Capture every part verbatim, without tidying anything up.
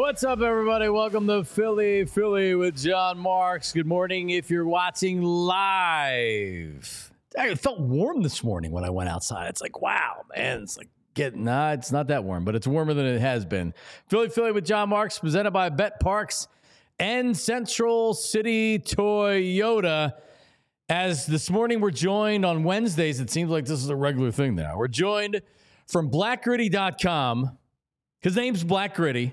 What's up, everybody? Welcome to Philly, Philly with John Marks. Good morning if you're watching live. It felt warm this morning when I went outside. It's like, wow, man. It's like getting, nah, it's not that warm, but it's warmer than it has been. Philly, Philly with John Marks, presented by Bet Parks and Central City Toyota. As this morning we're joined on Wednesdays, it seems like this is a regular thing now. We're joined from black gritty dot com. His name's Black Gritty.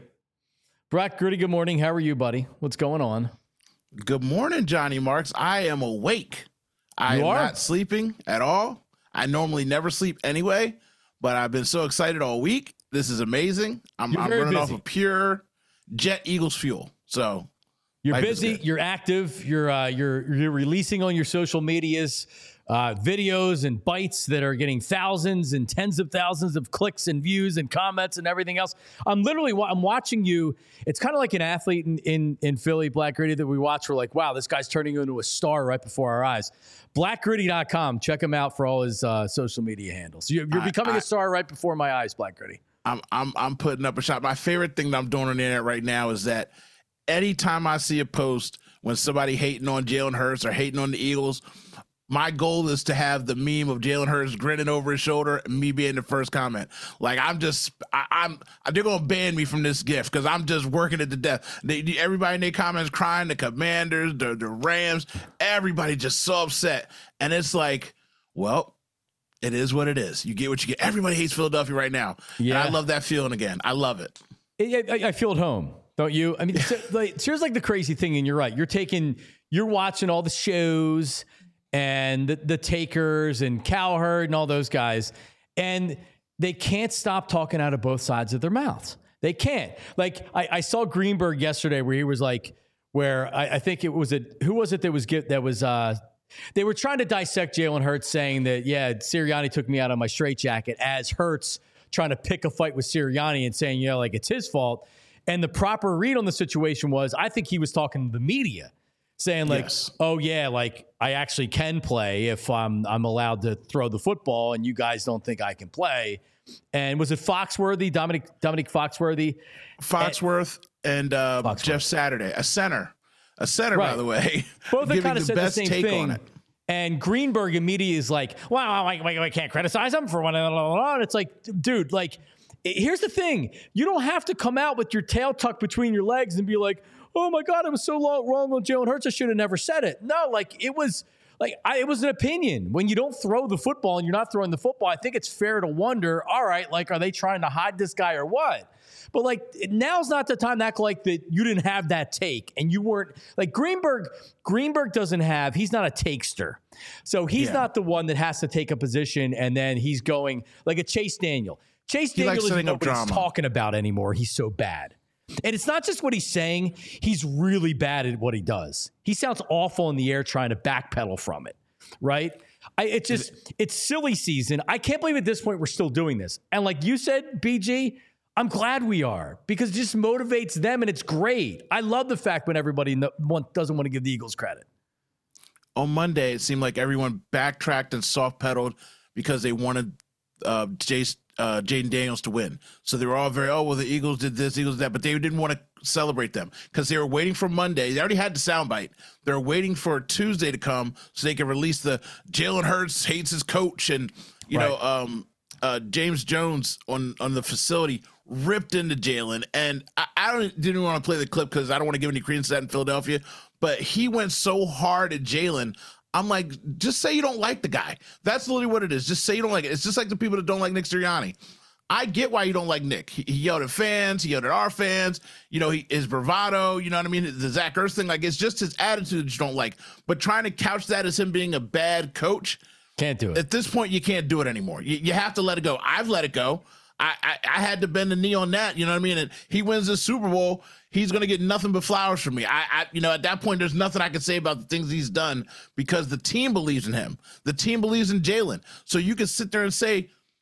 Black Gritty, good morning. How are you, buddy? What's going on? Good morning, Johnny Marks. I am awake. I You am are? not sleeping at all. I normally never sleep anyway, but I've been so excited all week. This is amazing. I'm, You're I'm very running busy. off of pure Jet Eagles fuel. So You're life is busy. good. You're active. You're uh, you're you're releasing on your social medias uh, videos and bites that are getting thousands and tens of thousands of clicks and views and comments and everything else. I'm literally wa- I'm watching you. It's kind of like an athlete in, in in Philly, Black Gritty, that we watch. We're like, wow, this guy's turning into a star right before our eyes. black gritty dot com. Check him out for all his uh, social media handles. You're, you're I- becoming I- a star right before my eyes, Black Gritty. I'm I'm I'm putting up a shot. My favorite thing that I'm doing on the internet right now is that anytime I see a post when somebody hating on Jalen Hurts or hating on the Eagles, my goal is to have the meme of Jalen Hurts grinning over his shoulder and me being the first comment. Like I'm just, I, I'm, they're gonna ban me from this gift because I'm just working it to death. They, everybody in their comments crying, the Commanders, the the Rams, everybody just so upset, and it's like, well, it is what it is. You get what you get. Everybody hates Philadelphia right now. Yeah. And I love that feeling again. I love it. I, I, I feel at home, don't you? I mean, so, like, here's like the crazy thing, and you're right. You're taking, you're watching all the shows and the, the Takers and Cowherd and all those guys, and they can't stop talking out of both sides of their mouths. They can't. Like I, I saw Greenberg yesterday, where he was like, where I, I think it was a who was it that was get that was. uh They were trying to dissect Jalen Hurts, saying that, yeah, Sirianni took me out of my straitjacket, as Hurts trying to pick a fight with Sirianni and saying, yeah, like it's his fault. And the proper read on the situation was, I think he was talking to the media, saying like, Yes. oh yeah, like I actually can play if I'm I'm allowed to throw the football, and you guys don't think I can play. And was it Foxworthy, Dominic Dominic Foxworthy? Foxworth and uh, Foxworth. Jeff Saturday, a center, a center, by Right. the way, Both have giving kind of the said the best same take thing. on it. And Greenberg immediately is like, wow, I, I, I can't criticize him for one. And it's like, dude, like, here's the thing. You don't have to come out with your tail tucked between your legs and be like, oh my God, I was so long, wrong on Jalen Hurts. I should have never said it. No, like it was like, I, it was an opinion. When you don't throw the football and you're not throwing the football, I think it's fair to wonder, all right, like, are they trying to hide this guy or what? But like now's not the time to act like that you didn't have that take and you weren't like Greenberg. Greenberg doesn't have, he's not a takester. So he's Yeah. not the one that has to take a position and then he's going like a Chase Daniel. Chase He likes Daniel isn't setting up what he's drama. talking about anymore. He's so bad. And it's not just what he's saying. He's really bad at what he does. He sounds awful in the air trying to backpedal from it. Right. I, it's just, it's silly season. I can't believe at this point we're still doing this. And like you said, B G, I'm glad we are because it just motivates them and it's great. I love the fact when everybody no, want, doesn't want to give the Eagles credit. On Monday, it seemed like everyone backtracked and soft pedaled because they wanted uh, Jace, uh, Jaden Daniels to win. So they were all very, oh, well, the Eagles did this, Eagles did that, but they didn't want to celebrate them because they were waiting for Monday. They already had the soundbite. They're waiting for Tuesday to come so they can release the Jalen Hurts hates his coach and, you Right. know, um, uh, James Jones on, on the facility ripped into Jalen. And I, I don't, didn't want to play the clip because I don't want to give any credence to that in Philadelphia, but he went so hard at Jalen. I'm like, just say you don't like the guy. That's literally what it is. Just say you don't like it. It's just like the people that don't like Nick Sirianni. I get why you don't like Nick. He, he yelled at fans. He yelled at our fans. You know, he, his bravado, you know what I mean? The Zach Ertz thing, like, it's just his attitude that you don't like. But trying to couch that as him being a bad coach, Can't do it. at this point, you can't do it anymore. You, you have to let it go. I've let it go. I, I, I had to bend the knee on that. You know what I mean? And he wins the Super Bowl. He's going to get nothing but flowers from me. I, I, you know, at that point, there's nothing I can say about the things he's done because the team believes in him. The team believes in Jalen. So you can sit there and say,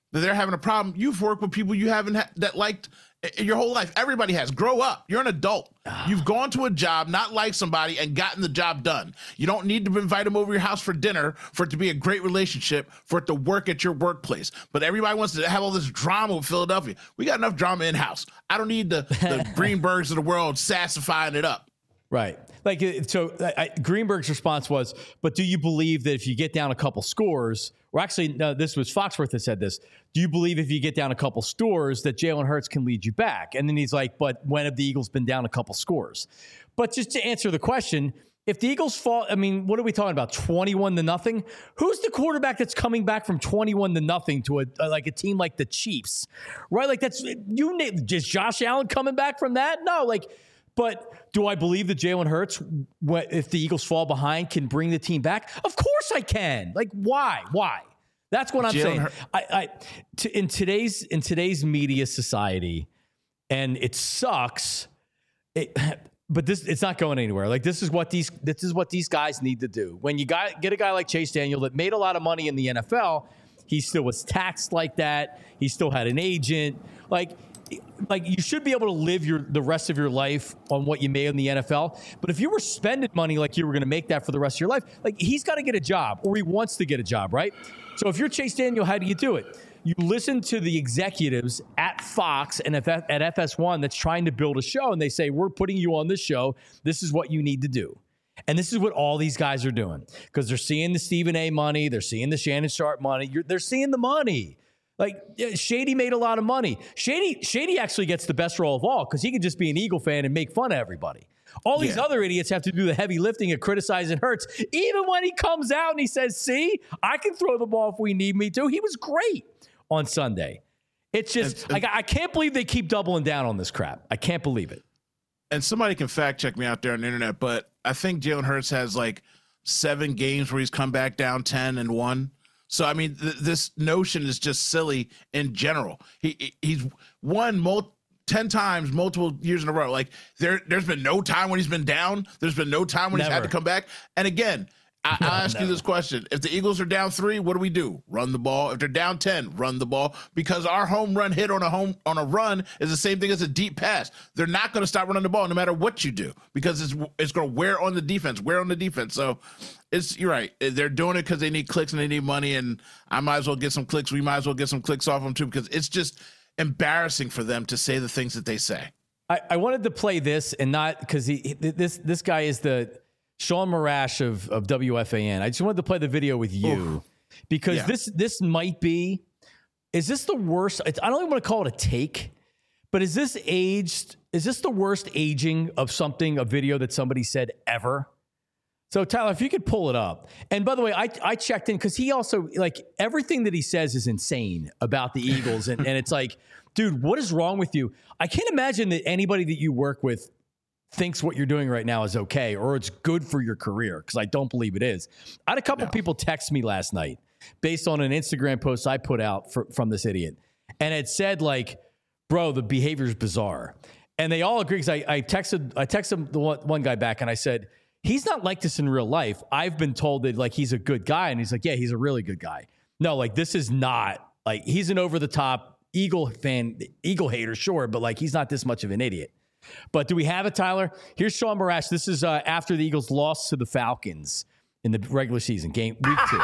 that they're having a problem. You've worked with people you haven't ha- that liked your whole life. Everybody has. Grow up. You're an adult. You've gone to a job, not like somebody, and gotten the job done. You don't need to invite them over your house for dinner for it to be a great relationship, for it to work at your workplace. But everybody wants to have all this drama with Philadelphia. We got enough drama in-house. I don't need the, the Greenbergs of the world sassifying it up. Right. Like, so I, Greenberg's response was, but do you believe that if you get down a couple scores, or actually, no, this was Foxworth that said this, do you believe if you get down a couple scores that Jalen Hurts can lead you back? And then he's like, but when have the Eagles been down a couple scores? But just to answer the question, if the Eagles fall, I mean, what are we talking about? twenty-one to nothing? Who's the quarterback that's coming back from twenty-one to nothing to a, like a team like the Chiefs, right? Like that's, you just Josh Allen coming back from that? No, like, but do I believe that Jalen Hurts, if the Eagles fall behind, can bring the team back? Of course I can. Like, why? Why? That's what I'm Jalen saying. Hur- I, I to, in today's in today's media society, and it sucks. It, but this it's not going anywhere. Like this is what these this is what these guys need to do. When you got get a guy like Chase Daniel that made a lot of money in the N F L, he still was taxed like that. He still had an agent. Like. Like you should be able to live your the rest of your life on what you made in the N F L. But if you were spending money like you were going to make that for the rest of your life, like he's got to get a job or he wants to get a job, right? So if you're Chase Daniel, how do you do it? You listen to the executives at Fox and at F S one that's trying to build a show, and they say, we're putting you on this show. This is what you need to do. And this is what all these guys are doing because they're seeing the Stephen A. money. They're seeing the Shannon Sharp money. You're, they're seeing the money. Like Shady made a lot of money. Shady, Shady actually gets the best role of all because he can just be an Eagle fan and make fun of everybody. All these yeah. other idiots have to do the heavy lifting of criticizing Hurts. Even when he comes out and he says, see, I can throw the ball if we need me to. He was great on Sunday. It's just, and, and, like, I can't believe they keep doubling down on this crap. I can't believe it. And somebody can fact check me out there on the internet, but I think Jalen Hurts has like seven games where he's come back down ten and one. So, I mean, th- this notion is just silly in general. He He's won mul- ten times, multiple years in a row. Like, there, there's been no time when he's been down. There's been no time when Never. he's had to come back. And again, I- no, I'll ask never. you this question. If the Eagles are down three, what do we do? Run the ball. If they're down ten, run the ball. Because our home run hit on a home on a run is the same thing as a deep pass. They're not going to stop running the ball no matter what you do because it's it's going to wear on the defense, wear on the defense. So, It's you're right. They're doing it because they need clicks and they need money, and I might as well get some clicks. We might as well get some clicks off them too because it's just embarrassing for them to say the things that they say. I, I wanted to play this and not because he this this guy is the Sean Marash of of W F A N. I just wanted to play the video with you Oof. because yeah. this this might be. Is this the worst? It's, I don't even want to call it a take, but is this aged? Is this the worst aging of something? A video that somebody said ever? So, Tyler, if you could pull it up. And by the way, I, I checked in because he also, like, everything that he says is insane about the Eagles. And, and it's like, dude, what is wrong with you? I can't imagine that anybody that you work with thinks what you're doing right now is okay or it's good for your career because I don't believe it is. I had a couple no. people text me last night based on an Instagram post I put out for, from this idiot. And it said, like, bro, the behavior is bizarre. And they all agree because I, I texted I texted the one, one guy back and I said, he's not like this in real life. I've been told that like he's a good guy. And he's like, yeah, he's a really good guy. No, like this is not like he's an over the top Eagle fan, Eagle hater. Sure. But like, he's not this much of an idiot. But do we have it, Tyler? Here's Sean Marash. This is uh, after the Eagles lost to the Falcons in the regular season game week two.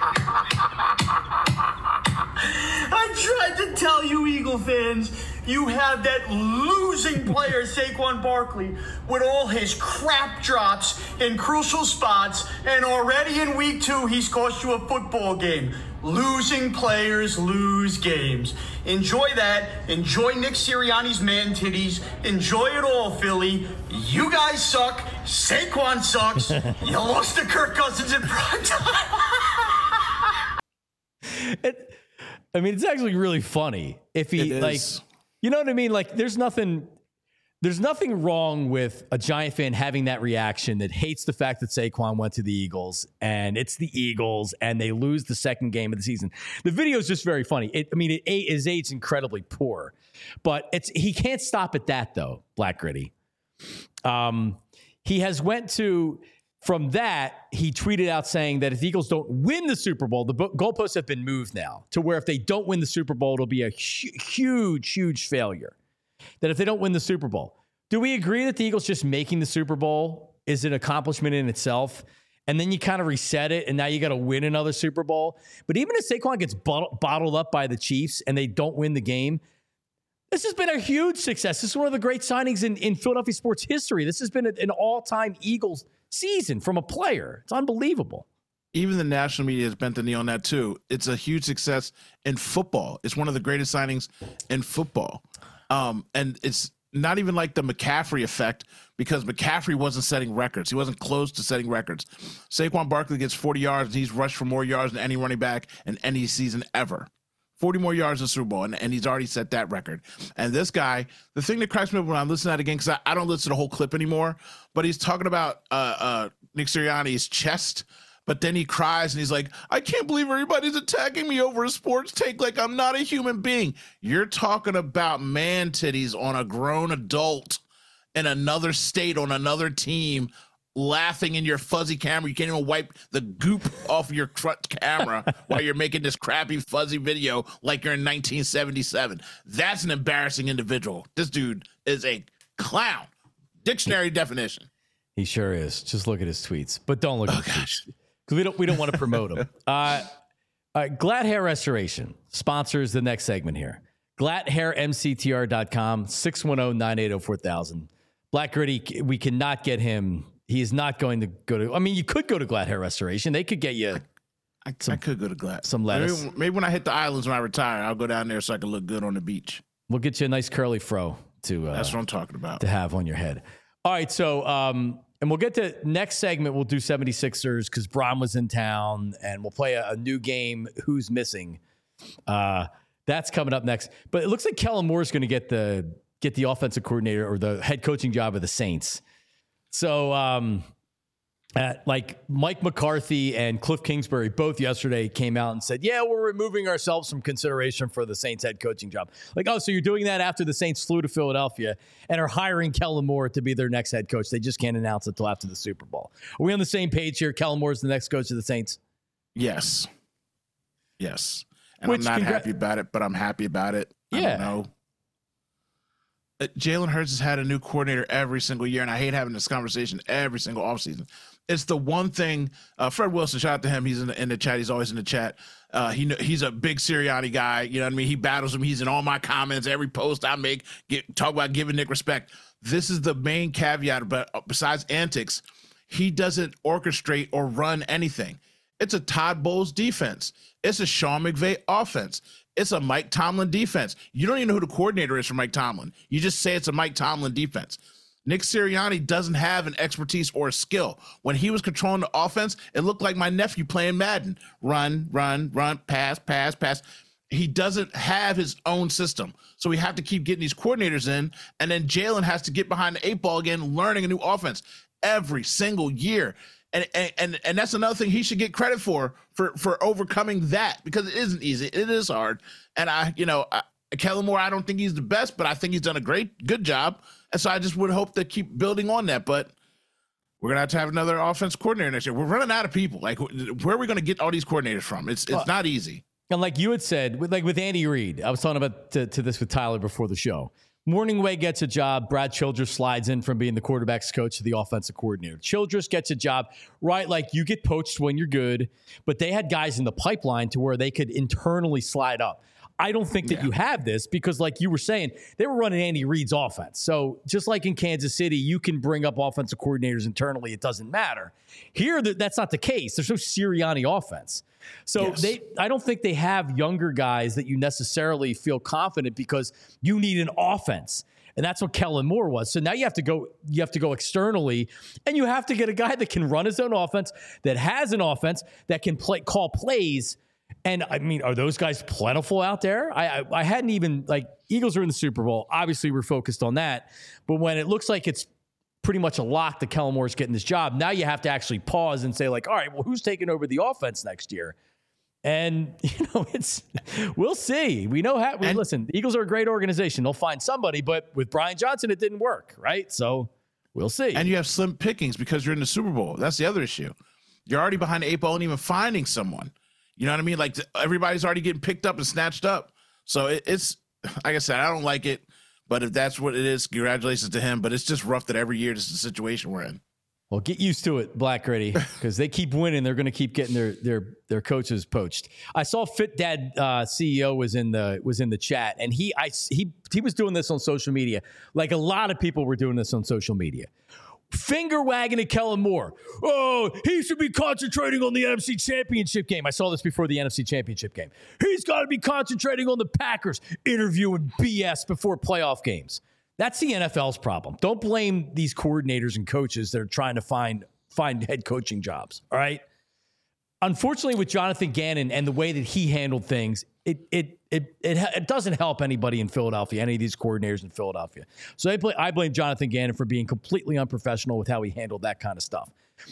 I tried to tell you, Eagle fans, you have that losing player, Saquon Barkley, with all his crap drops in crucial spots, and already in week two, he's cost you a football game. Losing players lose games. Enjoy that. Enjoy Nick Sirianni's man titties. Enjoy it all, Philly. You guys suck. Saquon sucks. You lost to Kirk Cousins in prime time. it, I mean, it's actually really funny if he like, you know what I mean? Like there's nothing, there's nothing wrong with a Giant fan having that reaction that hates the fact that Saquon went to the Eagles and it's the Eagles and they lose the second game of the season. The video is just very funny. It, I mean, it, his age's incredibly poor, but it's, he can't stop at that though. Black Gritty. Um, he has went to from that, he tweeted out saying that if the Eagles don't win the Super Bowl, the goalposts have been moved now to where if they don't win the Super Bowl, it'll be a hu- huge, huge failure. That if they don't win the Super Bowl, do we agree that the Eagles just making the Super Bowl is an accomplishment in itself? And then you kind of reset it, and now you got to win another Super Bowl. But even if Saquon gets bottled, bottled up by the Chiefs and they don't win the game, this has been a huge success. This is one of the great signings in, in Philadelphia sports history. This has been an all-time Eagles season from a player. It's unbelievable. Even the national media has bent the knee on that too. It's a huge success in football. It's one of the greatest signings in football. Um, and it's not even like the McCaffrey effect, because McCaffrey wasn't setting records. He wasn't close to setting records. Saquon Barkley gets forty yards, and he's rushed for more yards than any running back in any season ever. forty more yards in the Super Bowl, and, and he's already set that record. And this guy, the thing that cracks me up when I'm listening to that again, because I, I don't listen to the whole clip anymore, but he's talking about uh, uh, Nick Sirianni's chest, but then he cries and he's like, I can't believe everybody's attacking me over a sports take like I'm not a human being. You're talking about man titties on a grown adult in another state on another team, laughing in your fuzzy camera. You can't even wipe the goop off your front camera while you're making this crappy fuzzy video like you're in nineteen seventy-seven. That's an embarrassing individual. This dude is a clown. Dictionary definition. He sure is. Just look at his tweets, but don't look at Oh, his gosh. tweets because we don't we don't want to promote him. Uh, uh, Glad Hair Restoration sponsors the next segment here. glad hair m c t r dot com, six one zero, nine eight zero, four thousand. Black Gritty, we cannot get him. He is not going to go to, I mean, you could go to Glad Hair Restoration. They could get you I, some, I could go to Glad. some lettuce. Maybe, maybe when I hit the islands when I retire, I'll go down there so I can look good on the beach. We'll get you a nice curly fro to uh, That's what I'm talking about. to have on your head. All right, so, um, and we'll get to next segment. We'll do seventy-sixers because Bron was in town, and we'll play a, a new game, Who's Missing. Uh, that's coming up next. But it looks like Kellen Moore is going to get the get the offensive coordinator or the head coaching job of the Saints. So, um, uh, like Mike McCarthy and Cliff Kingsbury both yesterday came out and said, yeah, we're removing ourselves from consideration for the Saints head coaching job. Like, oh, so you're doing that after the Saints flew to Philadelphia and are hiring Kellen Moore to be their next head coach. They just can't announce it until after the Super Bowl. Are we on the same page here? Kellen Moore is the next coach of the Saints? Yes. Yes. And Which I'm not congra- happy about it, but I'm happy about it. I Yeah. don't know. Uh, Jalen Hurts has had a new coordinator every single year, and I hate having this conversation every single offseason. It's the one thing. Uh, Fred Wilson, shout out to him. He's in the, in the chat. He's always in the chat. Uh, he he's a big Sirianni guy. You know what I mean? He battles him. He's in all my comments, every post I make. Get, talk about giving Nick respect. This is the main caveat. But besides antics, he doesn't orchestrate or run anything. It's a Todd Bowles defense. It's a Sean McVay offense. It's a Mike Tomlin defense. You don't even know who the coordinator is for Mike Tomlin. You just say it's a Mike Tomlin defense. Nick Sirianni doesn't have an expertise or a skill. When he was controlling the offense, it looked like my nephew playing Madden. Run, run, run, pass, pass, pass. He doesn't have his own system. So we have to keep getting these coordinators in, and then Jalen has to get behind the eight ball again, learning a new offense every single year. And, and and that's another thing he should get credit for, for for overcoming that, because it isn't easy. It is hard. And I, you know, I, Kellen Moore, I don't think he's the best, but I think he's done a great, good job. And so I just would hope to keep building on that. But we're going to have to have another offense coordinator next year. We're running out of people. Like, where are we going to get all these coordinators from? It's it's well, not easy. And like you had said, with, like with Andy Reid, I was talking about to, to this with Tyler before the show. Morningway gets a job. Brad Childress slides in from being the quarterback's coach to the offensive coordinator. Childress gets a job, right? Like, you get poached when you're good, but they had guys in the pipeline to where they could internally slide up. I don't think that yeah. you have this because, like you were saying, they were running Andy Reid's offense. So just like in Kansas City, you can bring up offensive coordinators internally. It doesn't matter. Here, that's not the case. There's no Sirianni offense. So yes. they, I don't think they have younger guys that you necessarily feel confident because you need an offense. And that's what Kellen Moore was. So now you have to go, you have to go externally, and you have to get a guy that can run his own offense, that has an offense, that can play, call plays. And I mean, are those guys plentiful out there? I, I I hadn't even, like, Eagles are in the Super Bowl. Obviously, we're focused on that. But when it looks like it's pretty much a lock that Kellen Moore's getting this job, now you have to actually pause and say, like, all right, well, who's taking over the offense next year? And, you know, it's, we'll see. We know how, we, and, listen, the Eagles are a great organization. They'll find somebody, but with Brian Johnson, it didn't work, right? So. We'll see. And you have slim pickings because you're in the Super Bowl. That's the other issue. You're already behind the eight ball and even finding someone. You know what I mean? Like everybody's already getting picked up and snatched up. So it, it's, like I said, I don't like it. But if that's what it is, congratulations to him. But it's just rough that every year this is the situation we're in. Well, get used to it, Black Gritty, because they keep winning. They're going to keep getting their their their coaches poached. I saw Fit Dad uh, C E O was in the was in the chat, and he I he he was doing this on social media, like a lot of people were doing this on social media. Finger wagging at Kellen Moore. Oh, he should be concentrating on the N F C Championship game. I saw this before the N F C Championship game. He's got to be concentrating on the Packers, interviewing B S before playoff games. That's the N F L's problem. Don't blame these coordinators and coaches that are trying to find find head coaching jobs. All right. Unfortunately, with Jonathan Gannon and the way that he handled things, it it it it, it doesn't help anybody in Philadelphia, any of these coordinators in Philadelphia. So I, play, I blame Jonathan Gannon for being completely unprofessional with how he handled that kind of stuff.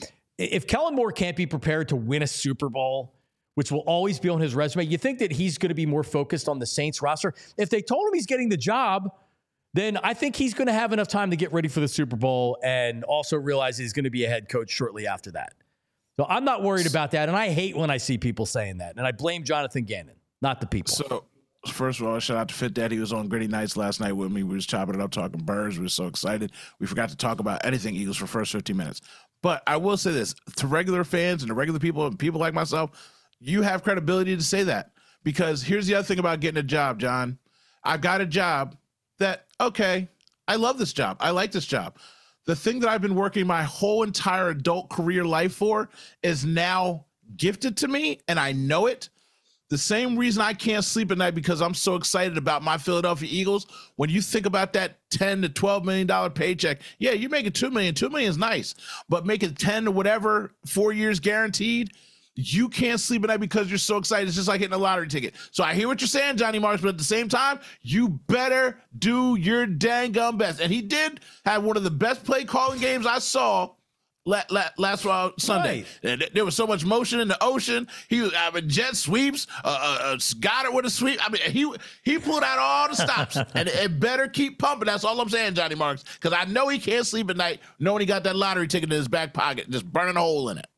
If Kellen Moore can't be prepared to win a Super Bowl, which will always be on his resume, you think that he's going to be more focused on the Saints roster? If they told him he's getting the job, then I think he's going to have enough time to get ready for the Super Bowl and also realize he's going to be a head coach shortly after that. So I'm not worried about that, and I hate when I see people saying that, and I blame Jonathan Gannon, not the people. So, first of all, shout out to Fit Dad. He was on Gritty Nights last night with me. We was chopping it up, talking birds. We were so excited. We forgot to talk about anything Eagles for the first fifteen minutes. But I will say this, to regular fans and to regular people and people like myself, you have credibility to say that. Because here's the other thing about getting a job, John. I got a job that, okay, I love this job. I like this job. The thing that I've been working my whole entire adult career life for is now gifted to me, and I know it. The same reason I can't sleep at night because I'm so excited about my Philadelphia Eagles. When you think about that ten to twelve million dollars paycheck, yeah, you're making two million dollars. two million dollars is nice, but making ten or whatever, four years guaranteed, you can't sleep at night because you're so excited. It's just like hitting a lottery ticket. So I hear what you're saying, Johnny Marks, but at the same time, you better do your dang gum best. And he did have one of the best play calling games I saw la- la- last uh, Sunday. Right. There was so much motion in the ocean. He was I mean, jet sweeps, uh, uh, got it with a sweep. I mean, he he pulled out all the stops, and it, it better keep pumping. That's all I'm saying, Johnny Marks, because I know he can't sleep at night knowing he got that lottery ticket in his back pocket, just burning a hole in it.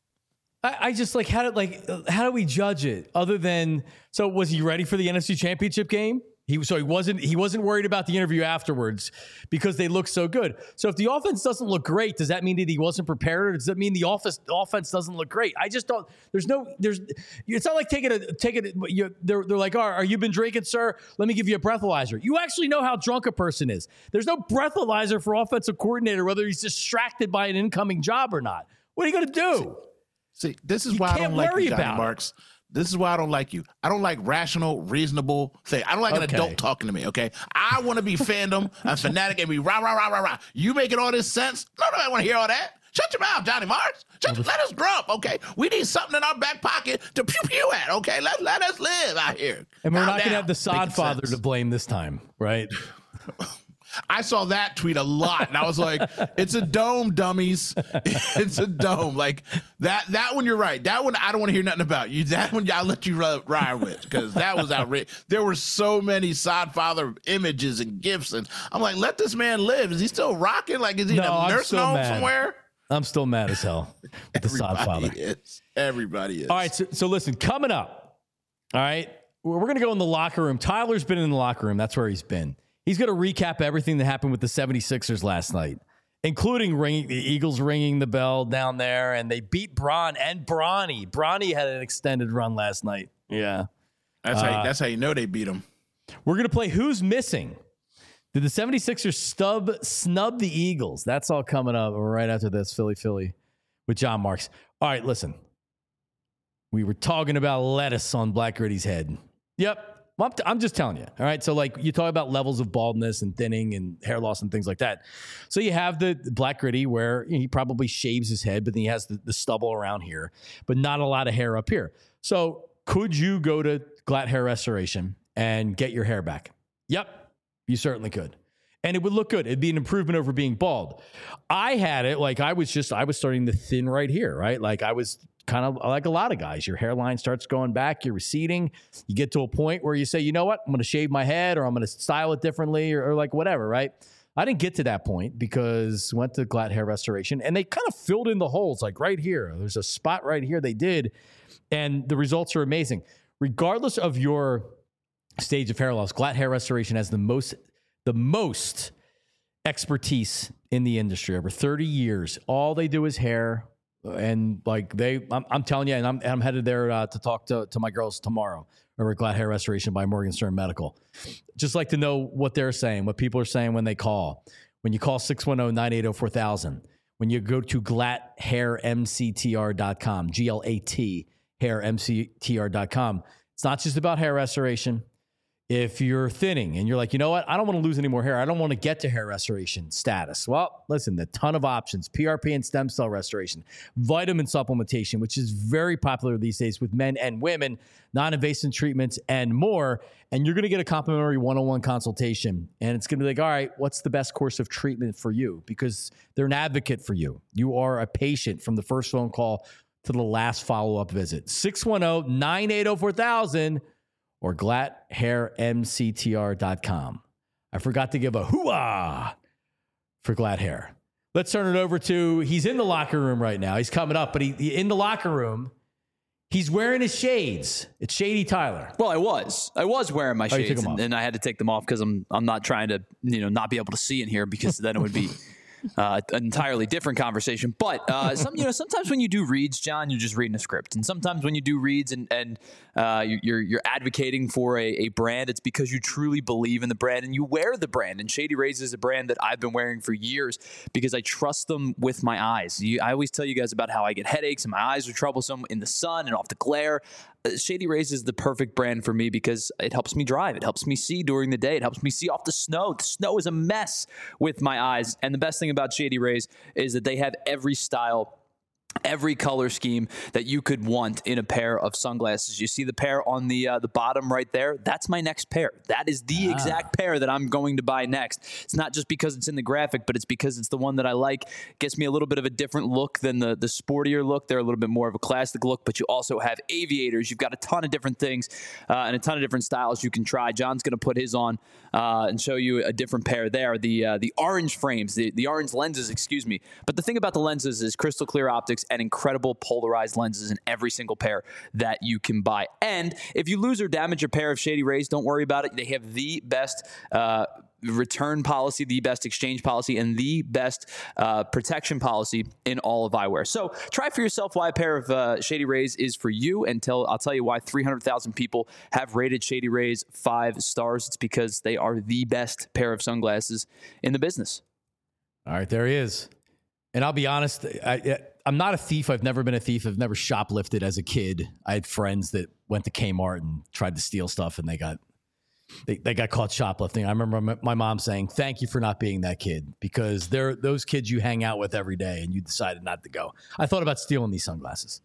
I just like how did like how do we judge it other than so was he ready for the N F C Championship game? He so he wasn't he wasn't worried about the interview afterwards because they looked so good. So if the offense doesn't look great, does that mean that he wasn't prepared, or does that mean the office the offense doesn't look great? I just don't. There's no there's. It's not like taking a taking it. You, they're they're like, oh, are you been drinking, sir? Let me give you a breathalyzer. You actually know how drunk a person is. There's no breathalyzer for offensive coordinator whether he's distracted by an incoming job or not. What are you going to do? See, this is you why I don't like you, Johnny Marks. This is why I don't like you. I don't like rational, reasonable thing. I don't like okay. an adult talking to me, okay? I want to be fandom, a fanatic, and be rah, rah, rah, rah, rah. You making all this sense? No, no, I want to hear all that. Shut your mouth, Johnny Marks. Shut, let us grow up, okay? We need something in our back pocket to pew-pew at, okay? Let, let us live out here. And we're Calm not going to have the sod father to blame this time, right? I saw that tweet a lot, and I was like, it's a dome, dummies. It's a dome. Like, that That one, you're right. That one, I don't want to hear nothing about. You. That one, I'll let you ride with, because that was outrageous. There were so many Sodfather images and gifs, and I'm like, let this man live. Is he still rocking? Like, is he no, in a nursing home mad. somewhere? I'm still mad as hell with the Sodfather. Is. Everybody is. All right, so, so listen, coming up, all right, we're, we're going to go in the locker room. Tyler's been in the locker room. That's where he's been. He's going to recap everything that happened with the seventy-sixers last night, including ringing, the Eagles ringing the bell down there, and they beat Bron and Bronny. Bronny had an extended run last night. Yeah. That's, uh, how, you, that's how you know they beat him. We're going to play Who's Missing. Did the seventy-sixers stub, snub the Eagles? That's all coming up right after this, Philly, Philly, with John Marks. All right, listen. We were talking about lettuce on Black Gritty's head. Yep. Well, I'm, t- I'm just telling you. All right. So like you talk about levels of baldness and thinning and hair loss and things like that. So you have the, the Black Gritty where you know, he probably shaves his head, but then he has the, the stubble around here, but not a lot of hair up here. So could you go to Glatt Hair Restoration and get your hair back? Yep. You certainly could. And it would look good. It'd be an improvement over being bald. I had it like I was just, I was starting to thin right here, right? Like I was kind of like a lot of guys. Your hairline starts going back, you're receding. You get to a point where you say, you know what? I'm going to shave my head or I'm going to style it differently or, or like whatever, right? I didn't get to that point because went to Glatt Hair Restoration, and they kind of filled in the holes, like right here. There's a spot right here they did, and the results are amazing. Regardless of your stage of hair loss, Glatt Hair Restoration has the most the most expertise in the industry. Over thirty years, all they do is hair, and like they, I'm, I'm telling you, and I'm, I'm headed there uh, to talk to, to my girls tomorrow over at Glatt Hair Restoration by Morgan Stern Medical. Just like to know what they're saying, what people are saying when they call. When you call six one zero, nine eight zero, four thousand, when you go to glatt hair m c t r dot com, G L A T, hair m c t r dot com. It's not just about hair restoration. If you're thinning and you're like, you know what, I don't want to lose any more hair. I don't want to get to hair restoration status. Well, listen, a ton of options. P R P and stem cell restoration, vitamin supplementation, which is very popular these days with men and women, non-invasive treatments, and more. And you're going to get a complimentary one-on-one consultation. And it's going to be like, all right, what's the best course of treatment for you? Because they're an advocate for you. You are a patient from the first phone call to the last follow-up visit. six one zero, nine eight zero, four thousand or glatt hair m c t r dot com. I forgot to give a hoo-ah for Glatt Hair. Let's turn it over to, he's in the locker room right now. He's coming up, but he, he in the locker room, he's wearing his shades. It's Shady Tyler. Well, I was. I was wearing my Oh, you took shades, them and, off. and I had to take them off because I'm I'm not trying to, you know, not be able to see in here, because then it would be uh, an entirely different conversation. But uh, some, you know, sometimes when you do reads, John, you're just reading a script, and sometimes when you do reads and and uh, you're you're advocating for a, a brand, it's because you truly believe in the brand and you wear the brand. And Shady Rays is a brand that I've been wearing for years because I trust them with my eyes. You, I always tell you guys about how I get headaches and my eyes are troublesome in the sun and off the glare. Shady Rays is the perfect brand for me because it helps me drive. It helps me see during the day. It helps me see off the snow. The snow is a mess with my eyes. And the best thing about Shady Rays is that they have every style, every color scheme that you could want in a pair of sunglasses. You see the pair on the uh, the bottom right there? That's my next pair. That is the ah. exact pair that I'm going to buy next. It's not just because it's in the graphic, but it's because it's the one that I like. It gets me a little bit of a different look than the, the sportier look. They're a little bit more of a classic look, but you also have aviators. You've got a ton of different things uh, and a ton of different styles you can try. John's going to put his on uh, and show you a different pair there. The uh, the orange frames, the, the orange lenses, excuse me. But the thing about the lenses is crystal clear optics and incredible polarized lenses in every single pair that you can buy. And if you lose or damage a pair of Shady Rays, don't worry about it. They have the best uh, return policy, the best exchange policy, and the best uh, protection policy in all of eyewear. So try for yourself why a pair of uh, Shady Rays is for you, and tell, I'll tell you why three hundred thousand people have rated Shady Rays five stars. It's because they are the best pair of sunglasses in the business. All right, there he is. And I'll be honest, I, I'm not a thief. I've never been a thief. I've never shoplifted as a kid. I had friends that went to Kmart and tried to steal stuff, and they got they, they got caught shoplifting. I remember my mom saying, "Thank you for not being that kid," because they're those kids you hang out with every day, and you decided not to go. I thought about stealing these sunglasses.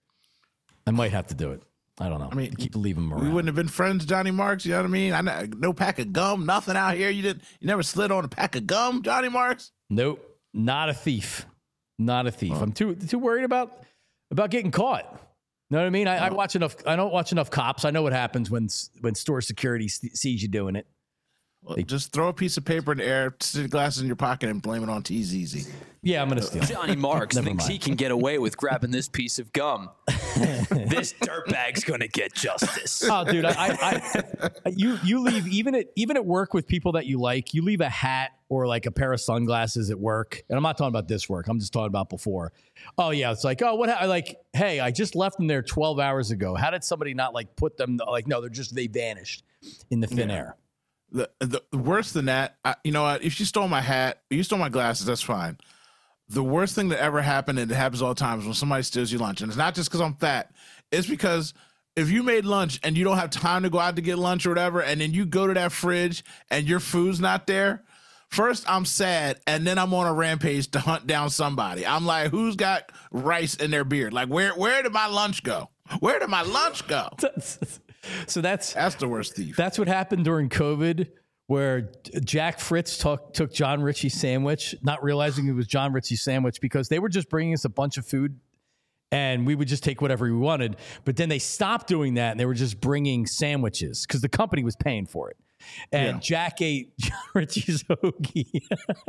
I might have to do it. I don't know. I mean, keep leaving them around. We wouldn't have been friends, Johnny Marks. You know what I mean? I know, no pack of gum, nothing out here. You didn't. You never slid on a pack of gum, Johnny Marks. Nope. Not a thief. Not a thief. Oh. I'm too too worried about about getting caught. You know what I mean? I, oh. I watch enough. I don't watch enough cops. I know what happens when when store security sees you doing it. Well, they, just throw a piece of paper in the air, stick glasses in your pocket, and blame it on T Z Z. Yeah, I'm gonna steal. Johnny Marks thinks mind. he can get away with grabbing this piece of gum. This dirtbag's gonna get justice. Oh, dude, I, I, I, you you leave even at even at work with people that you like. You leave a hat or like a pair of sunglasses at work, and I'm not talking about this work. I'm just talking about before. Oh yeah, it's like, oh, what? I like, hey, I just left them there twelve hours ago. How did somebody not like put them? Like, no, they're just they vanished in the thin yeah. air. The, the worse than that, I, you know what? If you stole my hat, you stole my glasses, that's fine. The worst thing that ever happened, and it happens all the time, is when somebody steals your lunch. And it's not just because I'm fat. It's because if you made lunch and you don't have time to go out to get lunch or whatever, and then you go to that fridge and your food's not there, first I'm sad, and then I'm on a rampage to hunt down somebody. I'm like, who's got rice in their beard? Like, where where did my lunch go? Where did my lunch go? So that's that's the worst thief. That's what happened during COVID, where Jack Fritz took took John Ritchie's sandwich, not realizing it was John Ritchie's sandwich, because they were just bringing us a bunch of food, and we would just take whatever we wanted. But then they stopped doing that, and they were just bringing sandwiches because the company was paying for it. and Yeah. Jack ate John Ritchie's hoagie.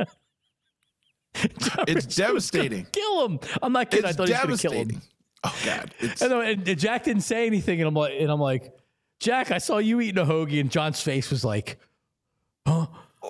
It's devastating. Kill him! I'm not kidding. It's I thought he was going to kill him. devastating. Oh God! It's, And, then- and Jack didn't say anything, and I'm like, and I'm like, Jack, I saw you eating a hoagie, and John's face was like, huh?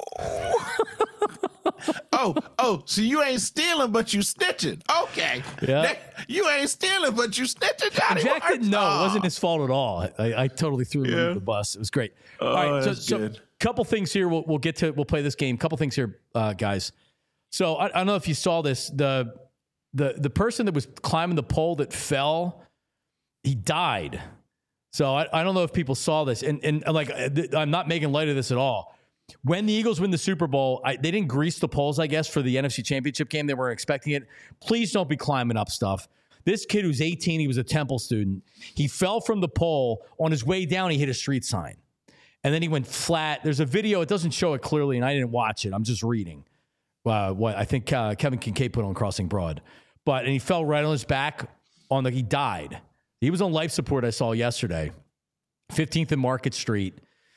oh, oh, so you ain't stealing, but you snitching. Okay. Yeah. That- you ain't stealing, but you snitching, Johnny. Jack Marks? didn't know. Oh. It wasn't his fault at all. I, I totally threw him Yeah. under the bus. It was great. Oh, all right, so, that's so good. couple things here. We'll, we'll get to. We'll play this game. Couple things here, uh, guys. So I, I don't know if you saw this. The the the person that was climbing the pole that fell, he died. So I, I don't know if people saw this, and and like I'm not making light of this at all. When the Eagles win the Super Bowl, I, they didn't grease the poles, I guess, for the N F C Championship game. They weren't expecting it. Please don't be climbing up stuff. This kid who's eighteen, he was a Temple student. He fell from the pole. On his way down, he hit a street sign. And then he went flat. There's a video. It doesn't show it clearly, and I didn't watch it. I'm just reading uh, what I think uh, Kevin Kincaid put on Crossing Broad. But and he fell right on his back. On the he died. He was on life support, I saw yesterday. fifteenth and Market Street.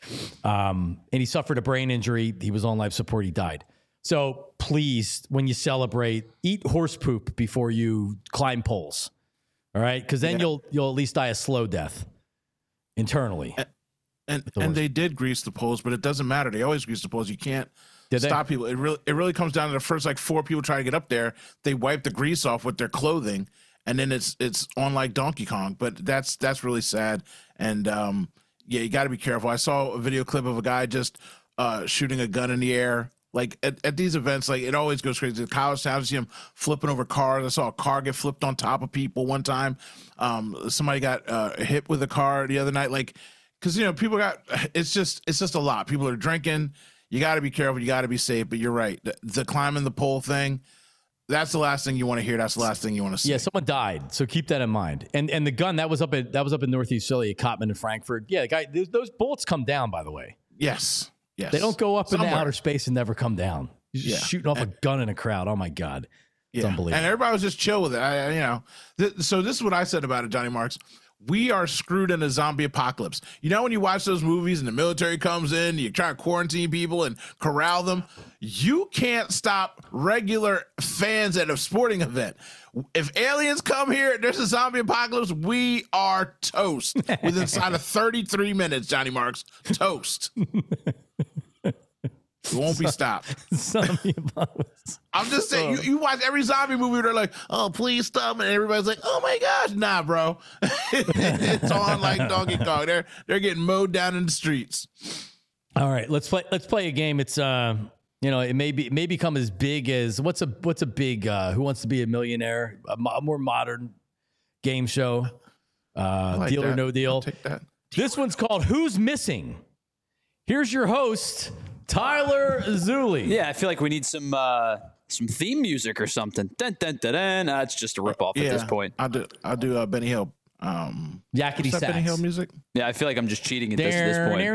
Um, and he suffered a brain injury. He was on life support. He died. So please, when you celebrate, eat horse poop before you climb poles. All right, because then Yeah. you'll you'll at least die a slow death internally. And the and worst. they did grease the poles, but it doesn't matter. They always grease the poles. You can't Did they? stop people. It really it really comes down to the first like four people trying to get up there. They wipe the grease off with their clothing, and then it's it's on like Donkey Kong. But that's that's really sad. And um, yeah, you got to be careful. I saw a video clip of a guy just uh, shooting a gun in the air. Like at, at these events, like it always goes crazy. The college town, you see him flipping over cars. I saw a car get flipped on top of people one time. Um, somebody got uh, hit with a car the other night. Like, because you know people got it's just it's just a lot. People are drinking. You got to be careful. You got to be safe. But you're right. The, the climbing the pole thing. That's the last thing you want to hear. That's the last thing you want to see. Yeah, someone died, so keep that in mind. And and the gun that was up at that was up in Northeast Philly at Cotman and Frankfurt. Yeah, the guy, those, those bullets come down. By the way, Yes. Yes. they don't go up Somewhere. into outer space and never come down. You're just Yeah. shooting off a gun in a crowd. Oh my god, it's Yeah. unbelievable. And everybody was just chill with it. I, I- you know, th- so this is what I said about it, Johnny Marks. We are screwed in a zombie apocalypse. You know, when you watch those movies and the military comes in, you try to quarantine people and corral them. You can't stop regular fans at a sporting event. If aliens come here, there's a zombie apocalypse. We are toast within inside of thirty-three minutes, Johnny Marks. Toast. It won't be stopped. Zombie apocalypse. I'm just saying, you, you watch every zombie movie, they're like, oh, please stop. And everybody's like, oh my gosh, nah, bro. It's on like Donkey Kong. They're they're getting mowed down in the streets. All right, let's play. Let's play a game. It's uh, you know, it may be it may become as big as what's a what's a big uh, Who Wants to Be a Millionaire? A, mo- a more modern game show. Uh, I like deal or that. no I'll deal. take that. This one's called Who's Missing. Here's your host, Tyler Zulli. Yeah, I feel like we need some uh, some theme music or something. Dun, dun, dun, dun. Uh, it's just a ripoff at this point. I'll do I'll do uh, Benny Hill. Um, Yakety what's that Benny Hill sax. music? Yeah, I feel like I'm just cheating at this, at this point.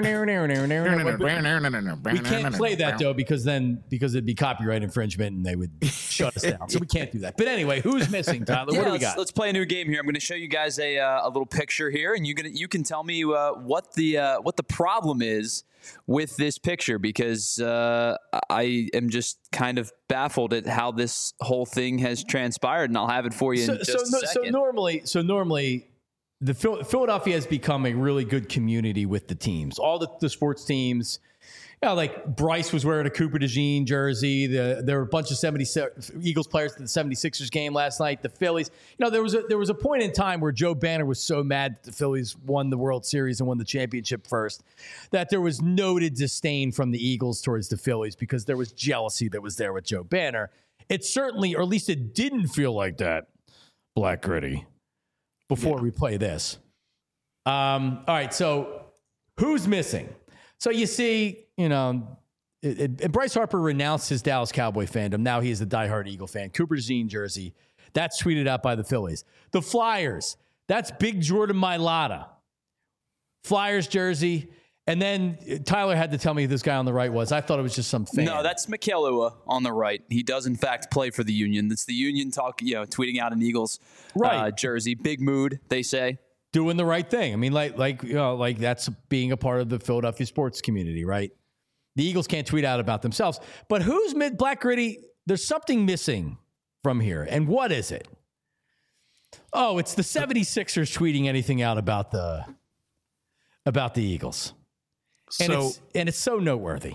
We can't play that though because then because it'd be copyright infringement and they would shut us down. So we can't do that. But anyway, who's missing, Tyler? Yeah, What do we let's, got? let's play a new game here. I'm going to show you guys a, uh, a little picture here, and you gonna you can tell me uh, what the uh, what the problem is with this picture because uh, I am just kind of baffled at how this whole thing has transpired, and I'll have it for you So, in just so, a no, so second. normally, so normally, the Phil- Philadelphia has become a really good community with the teams. All the, the sports teams, you know, like Bryce was wearing a Cooper DeJean jersey. The, there were a bunch of seventy Eagles players at the seventy-sixers game last night. The Phillies, you know, there was a there was a point in time where Joe Banner was so mad that the Phillies won the World Series and won the championship first, that there was noted disdain from the Eagles towards the Phillies because there was jealousy that was there with Joe Banner. It certainly, or at least it didn't feel like that, Black Gritty, before we play this. Um, all right, so who's missing? So you see, you know, it, it, and Bryce Harper renounced his Dallas Cowboy fandom. Now he is a diehard Eagle fan. Cooper DeJean jersey. That's tweeted out by the Phillies. The Flyers. That's Big Jordan Mailata. Flyers jersey. And then Tyler had to tell me who this guy on the right was. I thought it was just some fan. No, that's Mikelua on the right. He does, in fact, play for the Union. That's the Union talk, you know, tweeting out an Eagles Right. uh, jersey. Big mood, they say. doing the right thing. I mean, like, like, you know, like that's being a part of the Philadelphia sports community, right? The Eagles can't tweet out about themselves, but who's mid Black Gritty? There's something missing from here. And what is it? Oh, it's the seventy-sixers tweeting anything out about the, about the Eagles. And So it's, and it's so noteworthy.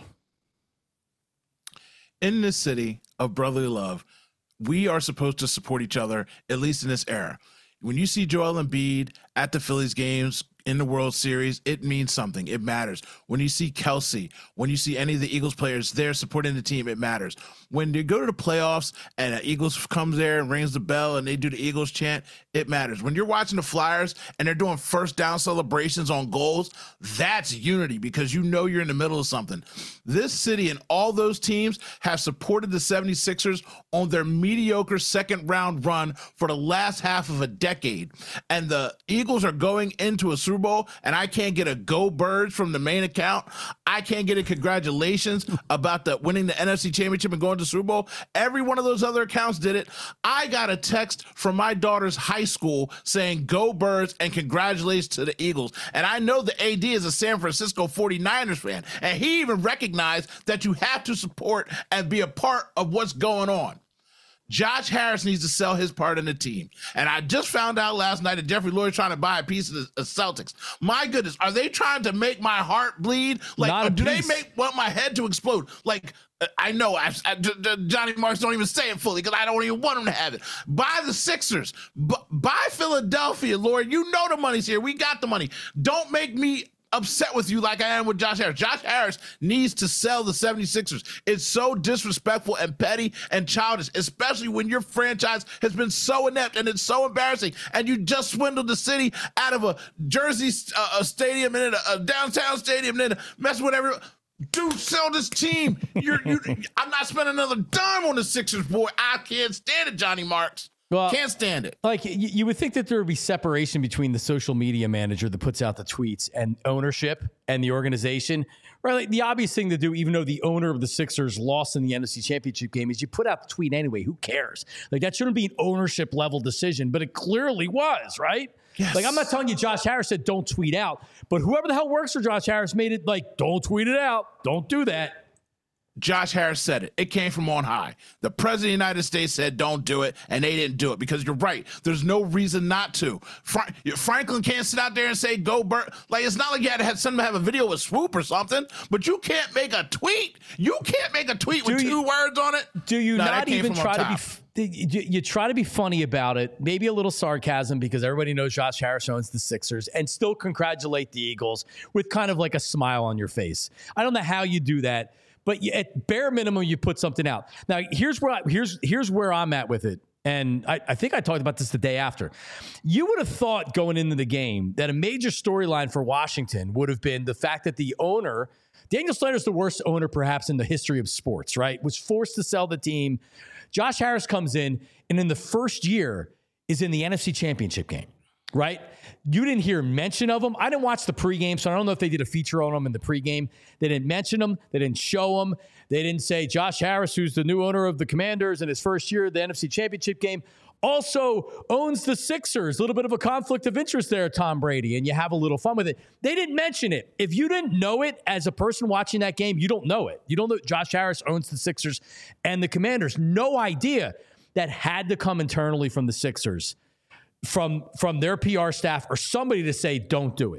in this city of brotherly love, we are supposed to support each other, at least in this era. When you see Joel Embiid at the Phillies games in the World Series, it means something. It matters. When you see Kelsey, when you see any of the Eagles players there supporting the team, it matters. When you go to the playoffs and the Eagles comes there and rings the bell and they do the Eagles chant, it matters. When you're watching the Flyers and they're doing first down celebrations on goals, that's unity because you know you're in the middle of something. This city and all those teams have supported the seventy-sixers on their mediocre second round run for the last half of a decade. And the Eagles are going into a Super Bowl and I can't get a go Birds from the main account. I can't get a congratulations about the winning the N F C Championship and going to the Super Bowl. Every one of those other accounts did it. I got a text from my daughter's high school saying go Birds and congratulations to the Eagles. And I know the A D is a San Francisco forty-niners fan. And he even recognized that you have to support and be a part of what's going on. Josh Harris needs to sell his part in the team. And I just found out last night that Jeffrey Lloyd's trying to buy a piece of the of Celtics. My goodness, are they trying to make my heart bleed? Like, Not a or do piece. they make want my head to explode? Like, I know I, I, D- D- Johnny Marks don't even say it fully because I don't even want him to have it. Buy the Sixers. B- buy Philadelphia, Lord. You know the money's here. We got the money. Don't make me upset with you like I am with Josh Harris. Josh Harris needs to sell the seventy-sixers. It's so disrespectful and petty and childish, especially when your franchise has been so inept and it's so embarrassing and you just swindled the city out of a Jersey uh, a stadium and then a, a downtown stadium and then mess with everyone. Dude, sell this team. You're, you, I'm not spending another dime on the Sixers, boy. I can't stand it, Johnny Marks. Well, Can't stand it. Like you, you would think that there would be separation between the social media manager that puts out the tweets and ownership and the organization, right? Like the obvious thing to do, even though the owner of the Sixers lost in the N F C Championship game, is you put out the tweet anyway. Who cares? Like that shouldn't be an ownership level decision, but it clearly was, right? Yes. Like I'm not telling you Josh Harris said don't tweet out, but whoever the hell works for Josh Harris made it like don't tweet it out. Don't do that. Josh Harris said it. It came from on high. The president of the United States said, don't do it, and they didn't do it because you're right. There's no reason not to. Fra- Franklin can't sit out there and say, go Bert. Like, it's not like you had to have somebody have a video with Swoop or something, but you can't make a tweet. You can't make a tweet with Do two you- words on it. Do you No, that not came even from try up to be? top. F- you, you try to be funny about it, maybe a little sarcasm because everybody knows Josh Harris owns the Sixers, and still congratulate the Eagles with kind of like a smile on your face. I don't know how you do that, but you, at bare minimum, you put something out. Now, here's where I, here's here's where I'm at with it, and I, I think I talked about this the day after. You would have thought going into the game that a major storyline for Washington would have been the fact that the owner. Daniel Snyder's the worst owner perhaps in the history of sports, right? Was forced to sell the team. Josh Harris comes in and in the first year is in the N F C Championship game, right? You didn't hear mention of him. I didn't watch the pregame, so I don't know if they did a feature on him in the pregame. They didn't mention him. They didn't show him. They didn't say Josh Harris, who's the new owner of the Commanders in his first year of the N F C Championship game, also owns the Sixers. A little bit of a conflict of interest there, Tom Brady, and you have a little fun with it. They didn't mention it. If you didn't know it as a person watching that game, you don't know it. You don't know Josh Harris owns the Sixers and the Commanders. No idea. That had to come internally from the Sixers, from, from their P R staff or somebody to say, don't do it.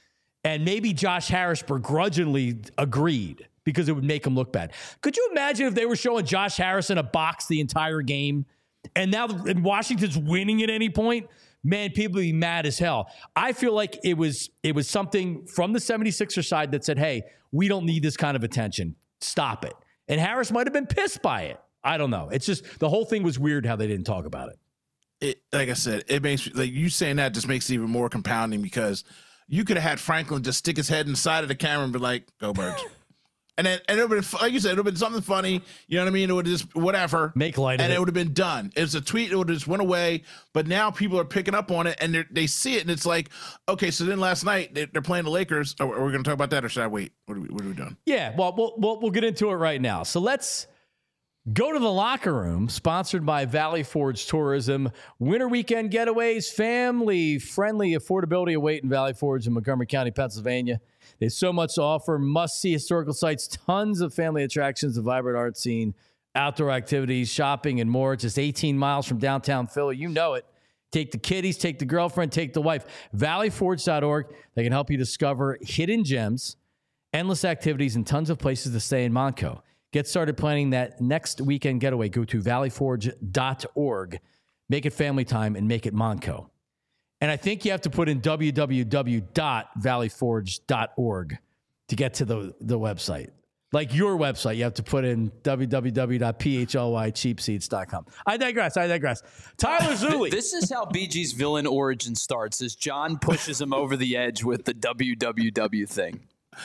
And maybe Josh Harris begrudgingly agreed because it would make him look bad. Could you imagine if they were showing Josh Harris in a box the entire game and now and Washington's winning at any point? Man, people would be mad as hell. I feel like it was it was something from the seventy-sixers side that said, hey, we don't need this kind of attention. Stop it. And Harris might have been pissed by it. I don't know. It's just the whole thing was weird how they didn't talk about it. It, like I said, it makes like you saying that just makes it even more compounding because you could have had Franklin just stick his head inside of the camera and be like, "Go Birds," and then and it would have, like you said, it would have been something funny. You know what I mean? It would have just whatever Make light of and it. it would have been done. It was a tweet. It would have just went away. But now people are picking up on it and they they see it and it's like, okay. So then last night they, they're playing the Lakers. Are, are we going to talk about that or should I wait? What are we, what are we doing? Yeah, well, we'll we'll we'll get into it right now. So let's Go to the Locker Room, sponsored by Valley Forge Tourism. Winter weekend getaways, family-friendly affordability await in Valley Forge in Montgomery County, Pennsylvania. There's so much to offer. Must-see historical sites, tons of family attractions, a vibrant art scene, outdoor activities, shopping, and more. Just eighteen miles from downtown Philly. You know it. Take the kiddies, take the girlfriend, take the wife. valley forge dot org. They can help you discover hidden gems, endless activities, and tons of places to stay in Montco. Get started planning that next weekend getaway. Go to valley forge dot org. Make it family time and make it Montco. And I think you have to put in w w w dot valley forge dot org to get to the, the website. Like your website, you have to put in w w w dot p h l y cheap seats dot com. I digress. I digress. Tyler Zulli. This is how B G's villain origin starts, as John pushes him over the edge with the W W W thing.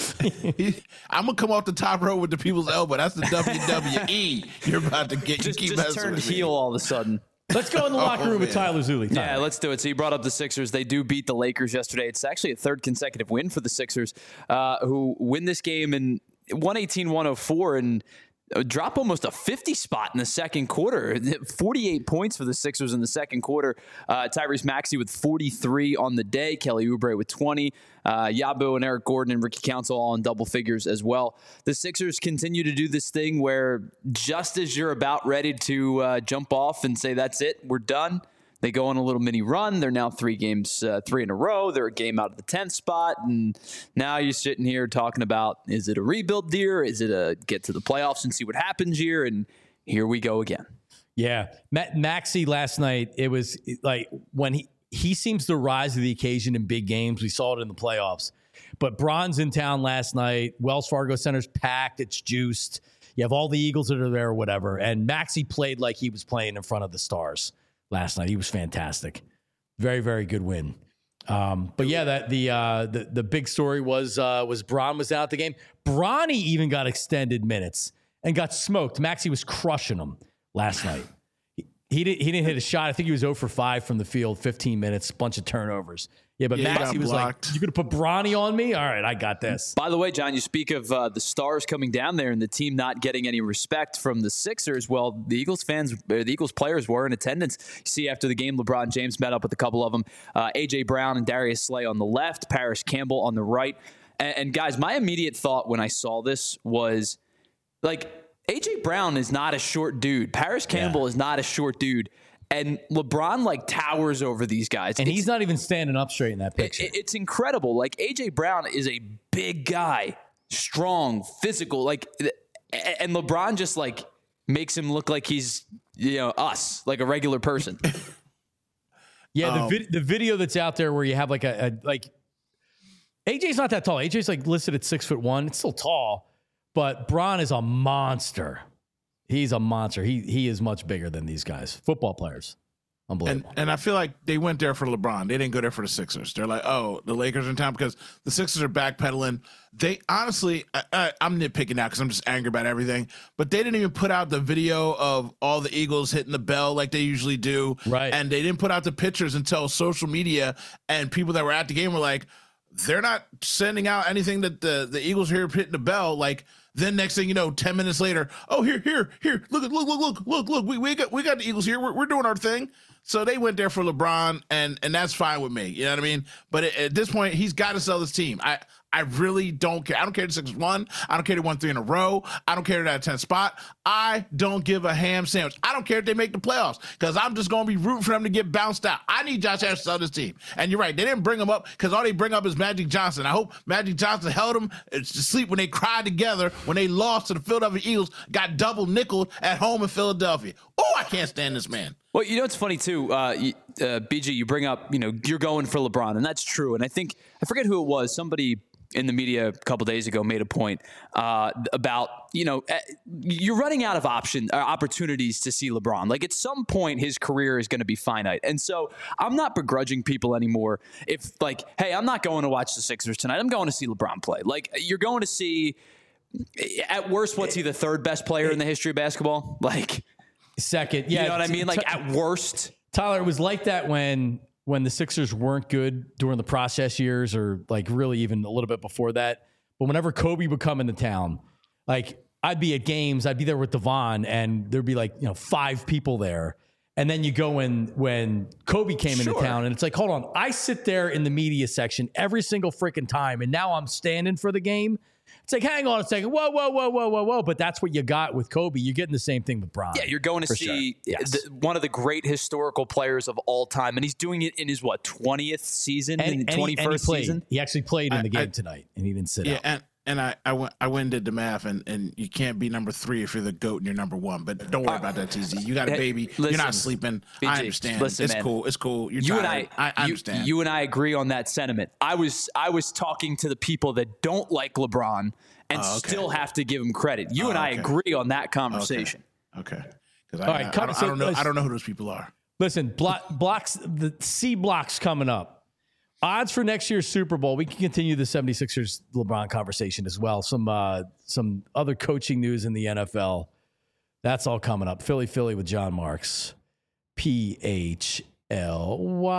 I'm gonna come off the top row with the people's elbow. That's the W W E. You're about to get. Just, you keep just turned heel all of a sudden. Let's go in the locker room oh, with Tyler Zulli. Tyler. Yeah, let's do it. So you brought up the Sixers. They do beat the Lakers yesterday. It's actually a third consecutive win for the Sixers, uh, who win this game in one eighteen one oh four and drop almost a fifty spot in the second quarter. forty-eight points for the Sixers in the second quarter. Uh, Tyrese Maxey with forty-three on the day. Kelly Oubre with twenty. Uh, Yabo and Eric Gordon and Ricky Council all in double figures as well. The Sixers continue to do this thing where just as you're about ready to uh, jump off and say, that's it, we're done, they go on a little mini run. They're now three games, uh, three in a row. They're a game out of the tenth spot. And now you're sitting here talking about, is it a rebuild year? Is it a get to the playoffs and see what happens year? And here we go again. Yeah. Matt Maxey last night, it was like when he, he seems to rise to the occasion in big games. We saw it in the playoffs. But Bron's in town last night. Wells Fargo Center's packed. It's juiced. You have all the Eagles that are there or whatever. And Maxey played like he was playing in front of the stars last night. He was fantastic. Very, very good win. Um, but yeah, that the, uh, the the big story was uh, was Bron was out the game. Bronny even got extended minutes and got smoked. Maxey was crushing him last night. He, he didn't he didn't hit a shot. I think he was zero for five from the field, fifteen minutes, bunch of turnovers. Yeah, but yeah, Maxey was blocked. Like, "You gonna put Bronny on me? All right, I got this." By the way, John, you speak of uh, the stars coming down there and the team not getting any respect from the Sixers. Well, the Eagles fans, the Eagles players were in attendance. You see, after the game, LeBron James met up with a couple of them. Uh, A J Brown and Darius Slay on the left, Paris Campbell on the right. And, and guys, my immediate thought when I saw this was, like, A J Brown is not a short dude. Paris Campbell yeah. is not a short dude. And LeBron, like, towers over these guys. And it's, he's not even standing up straight in that picture. It, it's incredible. Like, A J Brown is a big guy, strong, physical. Like, and LeBron just, like, makes him look like he's, you know, us, like a regular person. yeah, the, um, vid- the video that's out there where you have, like, a, a like, A J's not that tall. A J's, like, listed at six foot one. It's still tall. But Bron is a monster. He's a monster. He he is much bigger than these guys. Football players. Unbelievable. And, and I feel like they went there for LeBron. They didn't go there for the Sixers. They're like, oh, the Lakers are in town because the Sixers are backpedaling. They honestly, I, I, I'm nitpicking now because I'm just angry about everything. But they didn't even put out the video of all the Eagles hitting the bell like they usually do. Right. And they didn't put out the pictures until social media and people that were at the game were like, they're not sending out anything that the, the Eagles are here hitting the bell. Like, then next thing you know, ten minutes later, oh, here, here, here, look, look, look, look, look, look, we, we got we got the Eagles here. We're, we're doing our thing. So they went there for LeBron, and and that's fine with me. You know what I mean? But at, at this point, he's got to sell this team. I I really don't care. I don't care if the Sixers won. I don't care if they won three in a row. I don't care if they're at tenth spot. I don't give a ham sandwich. I don't care if they make the playoffs because I'm just going to be rooting for them to get bounced out. I need Josh Harris to sell this team. And you're right. They didn't bring him up because all they bring up is Magic Johnson. I hope Magic Johnson held him to sleep when they cried together when they lost to the Philadelphia Eagles, got double nickeled at home in Philadelphia. Oh, I can't stand this man. Well, you know, it's funny, too, uh, uh, B G, you bring up, you know, you're going for LeBron, and that's true. And I think, I forget who it was, somebody in the media a couple days ago made a point uh, about, you know, you're running out of option uh, opportunities to see LeBron. Like, at some point, his career is going to be finite. And so I'm not begrudging people anymore if, like, hey, I'm not going to watch the Sixers tonight. I'm going to see LeBron play. Like, you're going to see, at worst, what's he, the third best player in the history of basketball? Like, second. Yeah. You know what I mean? Like, at worst. Tyler, it was like that when when the Sixers weren't good during the process years or like really even a little bit before that. But whenever Kobe would come into town, like I'd be at games, I'd be there with Devon, and there'd be like, you know, five people there. And then you go in when Kobe came Sure. into town, and it's like, hold on, I sit there in the media section every single freaking time, and now I'm standing for the game. It's like, hang on a second, whoa, whoa, whoa, whoa, whoa, whoa. But that's what you got with Kobe. You're getting the same thing with Bron. Yeah, you're going to for see sure. Yes. the, one of the great historical players of all time, and he's doing it in his, what, twentieth season, And- in the and he- and he twenty-first played. season? He actually played in I- the game I- tonight, and he didn't sit Yeah, out. and and I I went I went and did the math, and and you can't be number three if you're the GOAT and you're number one. But don't worry about that, T Z. You got a Hey, baby. you're listen, not sleeping. B J, I understand. listen, it's man. cool. It's cool. You're You and tired. I, I, I you, understand. you and I agree on that sentiment. I was I was talking to the people that don't like LeBron and Oh, okay. still have to give him credit. You Oh, and I okay. agree on that conversation. Okay. Because I, All right, I, come- I, don't, so I don't know. let's- I don't know who those people are. Listen, block, blocks, the C blocks coming up. Odds for next year's Super Bowl. We can continue the seventy-sixers LeBron conversation as well. Some uh, some other coaching news in the N F L. That's all coming up. Philly, Philly with John Marks. P H L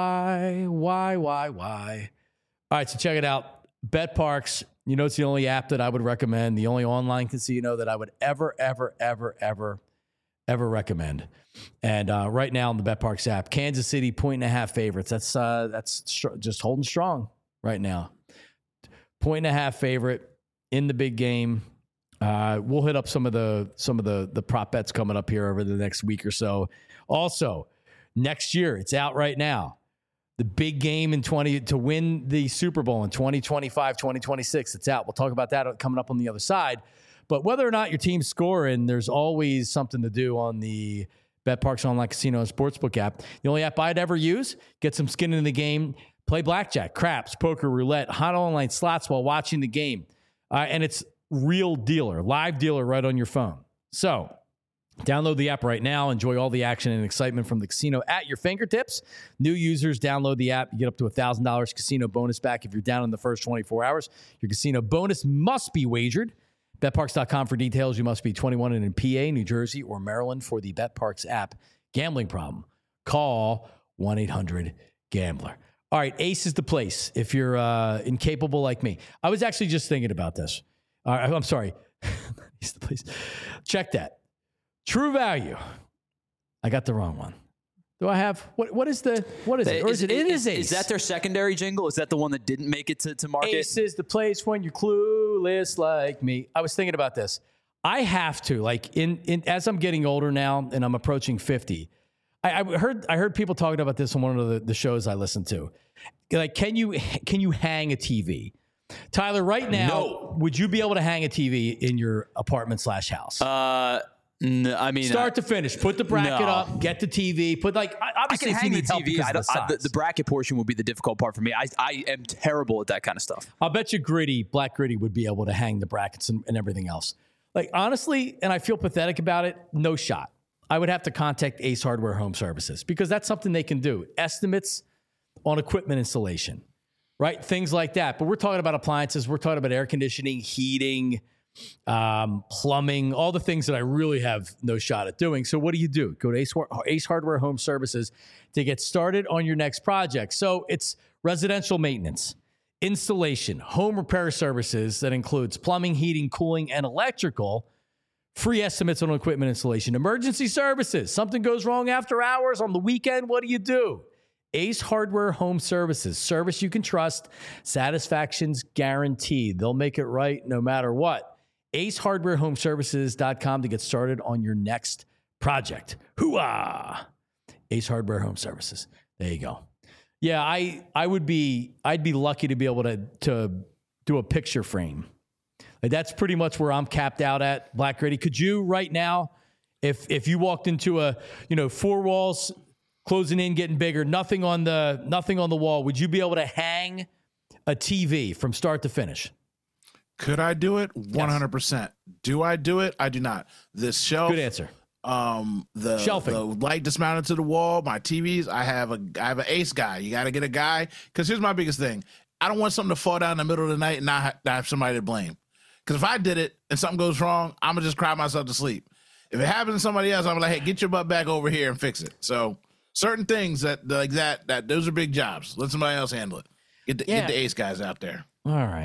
Y Y Y Y. All right, so check it out. BetParks. You know, it's the only app that I would recommend, the only online casino that I would ever, ever, ever, ever, ever recommend. And uh, right now on the BetParks app, Kansas City point and a half favorites. That's uh, that's str- just holding strong right now. Point and a half favorite in the big game. Uh, we'll hit up some of the some of the the prop bets coming up here over the next week or so. Also, next year, it's out right now. The big game in twenty to win the Super Bowl in twenty twenty-five, twenty twenty-six. It's out. We'll talk about that coming up on the other side. But whether or not your team's scoring, there's always something to do on the BetParks Online Casino and Sportsbook app. The only app I'd ever use. Get some skin in the game. Play blackjack, craps, poker, roulette, hot online slots while watching the game. Uh, and it's real dealer, live dealer right on your phone. So download the app right now. Enjoy all the action and excitement from the casino at your fingertips. New users, download the app. You get up to one thousand dollars casino bonus back if you're down in the first twenty-four hours. Your casino bonus must be wagered. Bet Parks dot com for details. You must be twenty-one and in P A, New Jersey, or Maryland for the BetParks app. Gambling problem? Call one eight hundred gambler. All right, Ace is the place if you're uh, incapable like me. I was actually just thinking about this. All right, I'm sorry. Ace is the place. Check that. True Value. I got the wrong one. Do I have what? What is the what is it? Or is, it? It is Ace. Is that their secondary jingle? Is that the one that didn't make it to, to market? Ace is the place when you're clueless like me. I was thinking about this. I have to like in in as I'm getting older now and I'm approaching fifty. I, I heard I heard people talking about this on one of the, the shows I listened to. Like, can you can you hang a T V? Tyler, right now, No. would you be able to hang a T V in your apartment slash house? Uh, no, I mean, Start I, to finish. Put the bracket No. up. Get the T V. Put like I obviously can if you hang the need help T V. because I of don't, the, I, the, size. the bracket portion would be the difficult part for me. I, I am terrible at that kind of stuff. I'll bet you Gritty, Black Gritty would be able to hang the brackets and, and everything else. Like, honestly, and I feel pathetic about it, no shot. I would have to contact Ace Hardware Home Services because that's something they can do. Estimates on equipment installation, right? Things like that. But we're talking about appliances. We're talking about air conditioning, heating, um, plumbing, all the things that I really have no shot at doing. So what do you do? Go to Ace, Ace Hardware Home Services to get started on your next project. So it's residential maintenance, installation, home repair services that includes plumbing, heating, cooling, and electrical. Free estimates on equipment installation, emergency services. Something goes wrong after hours on the weekend. What do you do? Ace Hardware Home Services. Service you can trust. Satisfaction's guaranteed. They'll make it right no matter what. ace hardware home services dot com to get started on your next project. Hooah! Ace Hardware Home Services. There you go. Yeah, I I would be I'd be lucky to be able to to do a picture frame. Like that's pretty much where I'm capped out at, Black Gritty. Could you right now, if if you walked into a, you know, four walls closing in, getting bigger, nothing on the nothing on the wall, would you be able to hang a T V from start to finish? Could I do it? one hundred percent. Do I do it? I do not. This shelf. Good answer. Um, the, Shelving. the light dismounted to the wall, my T Vs. I have a, I have an ace guy. You got to get a guy. Cause here's my biggest thing. I don't want something to fall down in the middle of the night and not have, not have somebody to blame. Cause if I did it and something goes wrong, I'm gonna just cry myself to sleep. If it happens to somebody else, I'm like, hey, get your butt back over here and fix it. So certain things that like that, that those are big jobs. Let somebody else handle it. Get the, Yeah. get the ace guys out there. All right.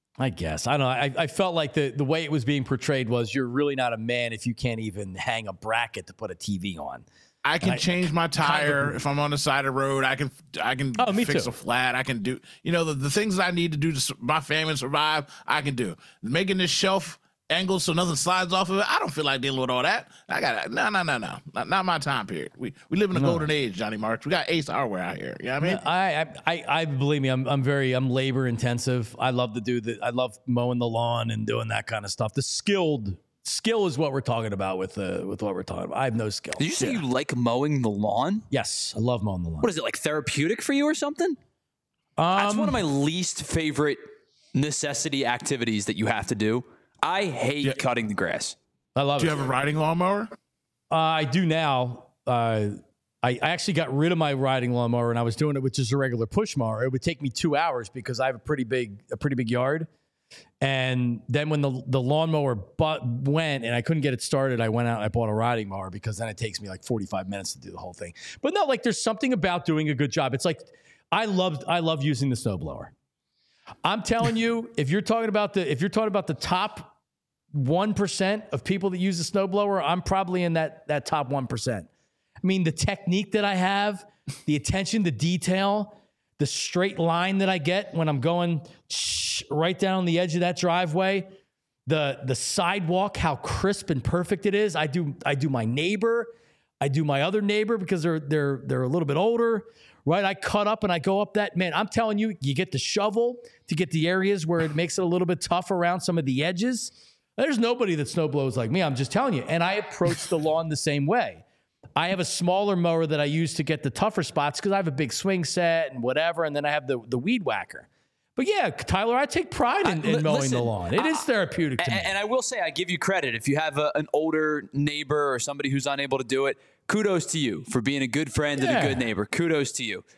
I guess. I don't know. I, I felt like the, the way it was being portrayed was you're really not a man if you can't even hang a bracket to put a T V on. I can I, change my tire kind of, if I'm on the side of the road. I can I can oh, fix too. a flat. I can do, you know, the, the things I need to do to my family survive, I can do. Making this shelf angle so nothing slides off of it, I don't feel like dealing with all that. I got no, no, no, no. Not, not my time period. We we live in the no. golden age, Johnny Marks. We got Ace Hardware out here. You know what I mean? I, I, I believe me, I'm I'm very, I'm labor intensive. I love to do the, I love mowing the lawn and doing that kind of stuff. The skilled Skill is what we're talking about with uh, with what we're talking about. I have no skill. Did you say yeah. you like mowing the lawn? Yes, I love mowing the lawn. What is it, like therapeutic for you or something? Um, That's one of my least favorite necessity activities that you have to do. I hate yeah. cutting the grass. I love do it. Do you have a riding lawnmower? Uh, I do now. Uh, I, I actually got rid of my riding lawnmower and I was doing it with just a regular push mower. It would take me two hours because I have a pretty big a pretty big yard. And then when the the lawnmower but went and I couldn't get it started, I went out and I bought a riding mower because then it takes me like forty-five minutes to do the whole thing. But no, like there's something about doing a good job. It's like I love I love using the snowblower. I'm telling you, if you're talking about the if you're talking about the top one percent of people that use the snowblower, I'm probably in that that top one percent. I mean, the technique that I have, the attention to detail, the straight line that I get when I'm going right down the edge of that driveway, the the sidewalk, how crisp and perfect it is. I do I do my neighbor, I do my other neighbor because they're they're they're a little bit older, right? I cut up and I go up that, man, I'm telling you, you get the shovel to get the areas where it makes it a little bit tough around some of the edges. There's nobody that snow blows like me, I'm just telling you. And I approach the lawn the same way. I have a smaller mower that I use to get the tougher spots because I have a big swing set and whatever, and then I have the, the weed whacker. But yeah, Tyler, I take pride in, in mowing Listen, the lawn. It uh, is therapeutic to and, me. And I will say, I give you credit. If you have a, an older neighbor or somebody who's unable to do it, kudos to you for being a good friend yeah. and a good neighbor. Kudos to you.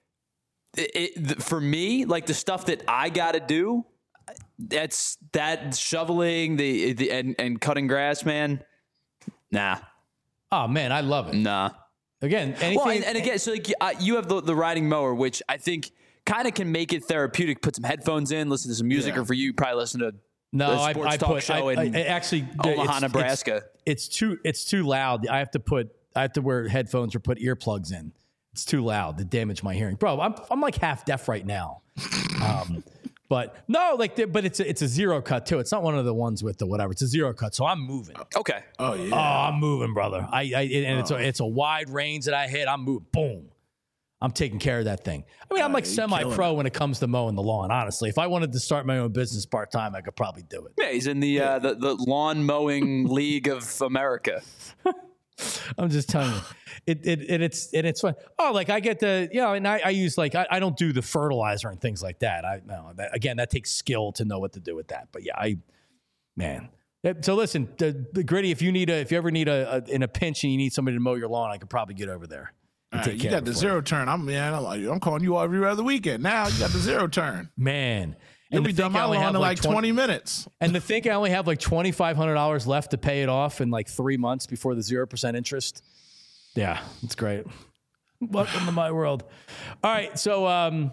It, it, for me, like the stuff that I got to do, that's that shoveling the, the and, and cutting grass, man. Nah. Oh man, I love it. Nah. Again, anything. Well, and, and again, so like uh, you have the, the riding mower, which I think kind of can make it therapeutic. Put some headphones in, listen to some music, yeah. or for you, probably listen to no, the sports I, I talk put, show I, in I, actually Omaha, it's, Nebraska. It's, it's too it's too loud. I have to put I have to wear headphones or put earplugs in. It's too loud to damage my hearing, bro. I'm I'm like half deaf right now. Um, But no, like, the, but it's a, it's a zero cut too. It's not one of the ones with the whatever. It's a zero cut, so I'm moving. Okay. Oh yeah. Oh, I'm moving, brother. I, I and oh. it's a, it's a wide range that I hit. I'm moving. Boom. I'm taking care of that thing. I mean, I'm like semi-pro when it comes to mowing the lawn. Honestly, if I wanted to start my own business part time, I could probably do it. Yeah, he's in the yeah. uh, the, the lawn mowing league of America. I'm just telling you, it it, it it's and it's fun. Oh, like I get the you know, and I, I use like I, I don't do the fertilizer and things like that. I no that, again that takes skill to know what to do with that. But yeah, I man. So listen, the, the Gritty, if you need a if you ever need a, a in a pinch and you need somebody to mow your lawn, I could probably get over there. Right, you got the zero turn. I'm man. I'm, like, I'm calling you every other weekend. Now you got the zero turn, man. You'll be done my lawn in like twenty minutes. And to think I only have like twenty-five hundred dollars left to pay it off in like three months before the zero percent interest. Yeah, it's great. Welcome to my world. All right, so um,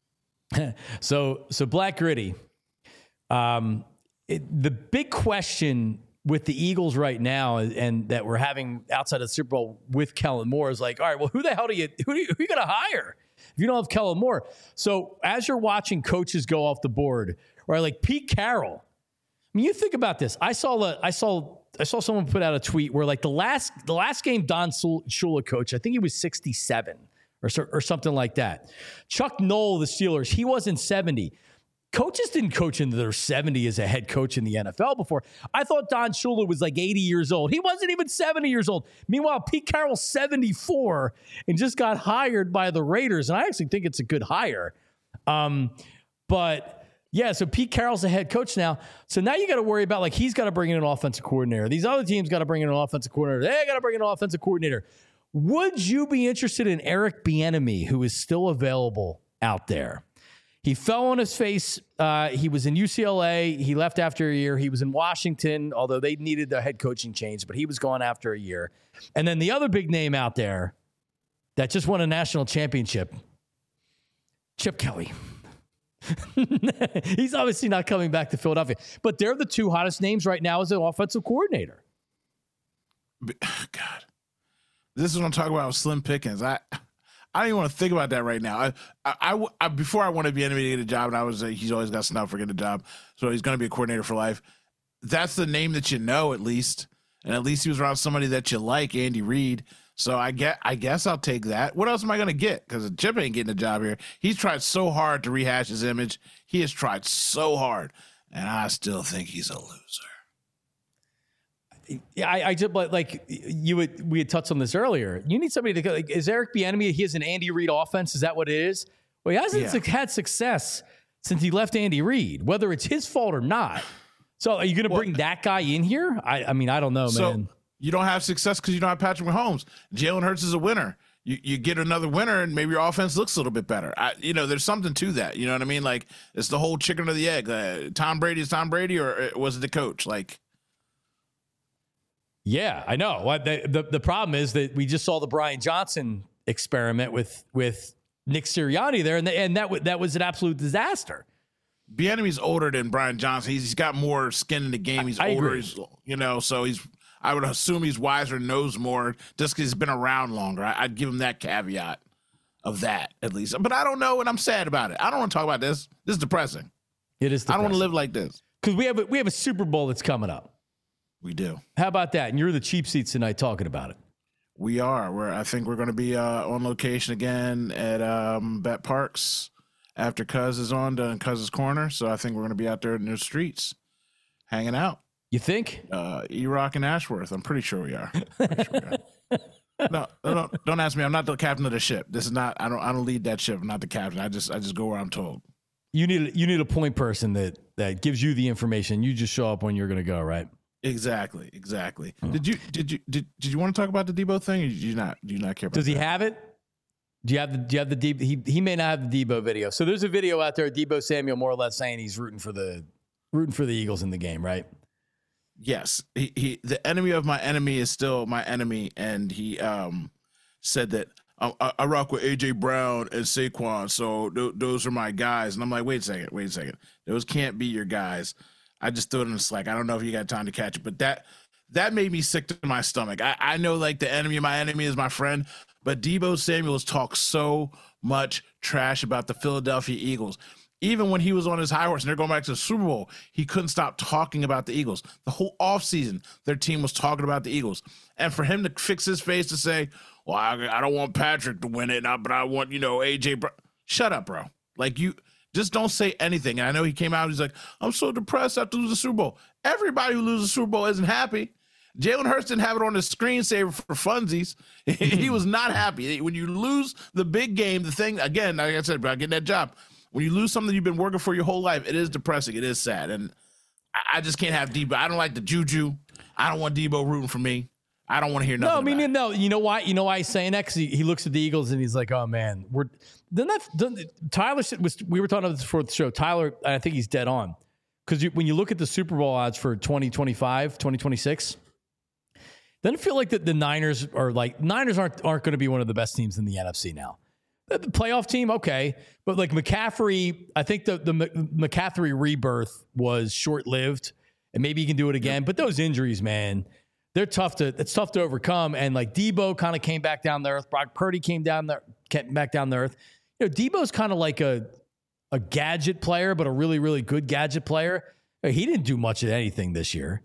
so so Black Gritty. Um, it, the big question with the Eagles right now, and that we're having outside of the Super Bowl with Kellen Moore is like, all right, well, who the hell do you who do you, who are you going to hire if you don't have Kellen Moore? So as you're watching coaches go off the board, right, like Pete Carroll. I mean, you think about this. I saw the I saw I saw someone put out a tweet where like the last the last game Don Shula coach, I think he was sixty-seven or or something like that. Chuck Noll, the Steelers, he wasn't seventy. Coaches didn't coach into their seventy as a head coach in the N F L before. I thought Don Shula was like eighty years old. He wasn't even seventy years old. Meanwhile, Pete Carroll's seventy-four and just got hired by the Raiders. And I actually think it's a good hire. Um, but yeah, so Pete Carroll's the head coach now. So now you got to worry about like he's got to bring in an offensive coordinator. These other teams got to bring in an offensive coordinator. They got to bring in an offensive coordinator. Would you be interested in Eric Bieniemy, who is still available out there? He fell on his face. Uh, he was in U C L A. He left after a year. He was in Washington, although they needed a head coaching change, but he was gone after a year. And then the other big name out there that just won a national championship, Chip Kelly. He's obviously not coming back to Philadelphia. But they're the two hottest names right now as an offensive coordinator. God, this is what I'm talking about with Slim Pickens. I I don't even want to think about that right now. I, I, I, I before I wanted to be N B A to get a job, and I was uh, he's always got snubbed for getting a job, so he's going to be a coordinator for life. That's the name that you know, at least, and at least he was around somebody that you like, Andy Reid. So I get, I guess I'll take that. What else am I going to get? Because Chip ain't getting a job here. He's tried so hard to rehash his image. He has tried so hard, and I still think he's a loser. Yeah, I, I just like you would. We had touched on this earlier. You need somebody to. Like, is Eric Bieniemy? He has an Andy Reid offense. Is that what it is? Well, he hasn't yeah. had success since he left Andy Reid, whether it's his fault or not. So, are you going to bring well, that guy in here? I, I mean, I don't know, so man. You don't have success because you don't have Patrick Mahomes. Jalen Hurts is a winner. You you get another winner, and maybe your offense looks a little bit better. I, you know, there's something to that. You know what I mean? Like, it's the whole chicken or the egg. Uh, Tom Brady is Tom Brady, or was it the coach? Like. Yeah, I know. What the, the the problem is that we just saw the Brian Johnson experiment with with Nick Sirianni there, and the, and that w- that was an absolute disaster. Bieniemy's older than Brian Johnson. He's, he's got more skin in the game. He's I, I older. agree. He's, you know, so he's. I would assume he's wiser, knows more, just because he's been around longer. I, I'd give him that caveat of that at least. But I don't know, and I'm sad about it. I don't want to talk about this. This is depressing. It is. Depressing. I don't want to live like this because we have a, we have a Super Bowl that's coming up. We do. How about that? And you're the cheap seats tonight talking about it. We are. We're, I think we're going to be uh, on location again at um, Bet Parks after Cuz is on to Cuz's Corner. So I think we're going to be out there in the streets hanging out. You think? Uh, E-Rock and Ashworth. I'm pretty sure we are. Sure we are. no, no, don't ask me. I'm not the captain of the ship. This is not. I don't. I don't lead that ship. I'm not the captain. I just. I just go where I'm told. You need. You need a point person that that gives you the information. You just show up when you're going to go. Right. Exactly, exactly. Oh. Did you did you did, did you want to talk about the Debo thing, or did you not? Do you not care about? Does he that? have it? Do you have the? Do you have the Debo? He he may not have the Debo video. So there's a video out there. Debo Samuel more or less saying he's rooting for the rooting for the Eagles in the game, right? Yes. He he. The enemy of my enemy is still my enemy, and he um said that I, I rock with A J Brown and Saquon, so th- those are my guys. And I'm like, wait a second, wait a second. Those can't be your guys. I just threw it in the Slack. I don't know if you got time to catch it, but that that made me sick to my stomach. I, I know like the enemy of my enemy is my friend, but Debo Samuel has talked so much trash about the Philadelphia Eagles. Even when he was on his high horse and they're going back to the Super Bowl, he couldn't stop talking about the Eagles. The whole offseason, their team was talking about the Eagles. And for him to fix his face to say, well, I, I don't want Patrick to win it, but I want, you know, A J Brown. Shut up, bro. Like you... Just don't say anything. And I know he came out and he's like, I'm so depressed after losing the Super Bowl. Everybody who loses the Super Bowl isn't happy. Jalen Hurts didn't have it on his screensaver for funsies. He was not happy. When you lose the big game, the thing, again, like I said, about getting that job, when you lose something you've been working for your whole life, it is depressing. It is sad. And I just can't have Debo. I don't like the juju. I don't want Debo rooting for me. I don't want to hear nothing. No, I mean, about no. it. You know why? You know why he's saying that? Because he, he looks at the Eagles and he's like, "Oh man, we're." Then that then, Tyler was. We were talking about this before the show. Tyler, I think he's dead on. Because when you look at the Super Bowl odds for twenty twenty-five, twenty twenty-six, doesn't it feel like that the Niners are like Niners aren't aren't going to be one of the best teams in the N F C now. The playoff team, okay, but like McCaffrey, I think the the McCaffrey rebirth was short lived, and maybe he can do it again. But those injuries, man. They're tough to, it's tough to overcome. And like Debo kind of came back down to earth. Brock Purdy came down there, came back down to earth. You know, Debo's kind of like a, a gadget player, but a really, really good gadget player. He didn't do much of anything this year.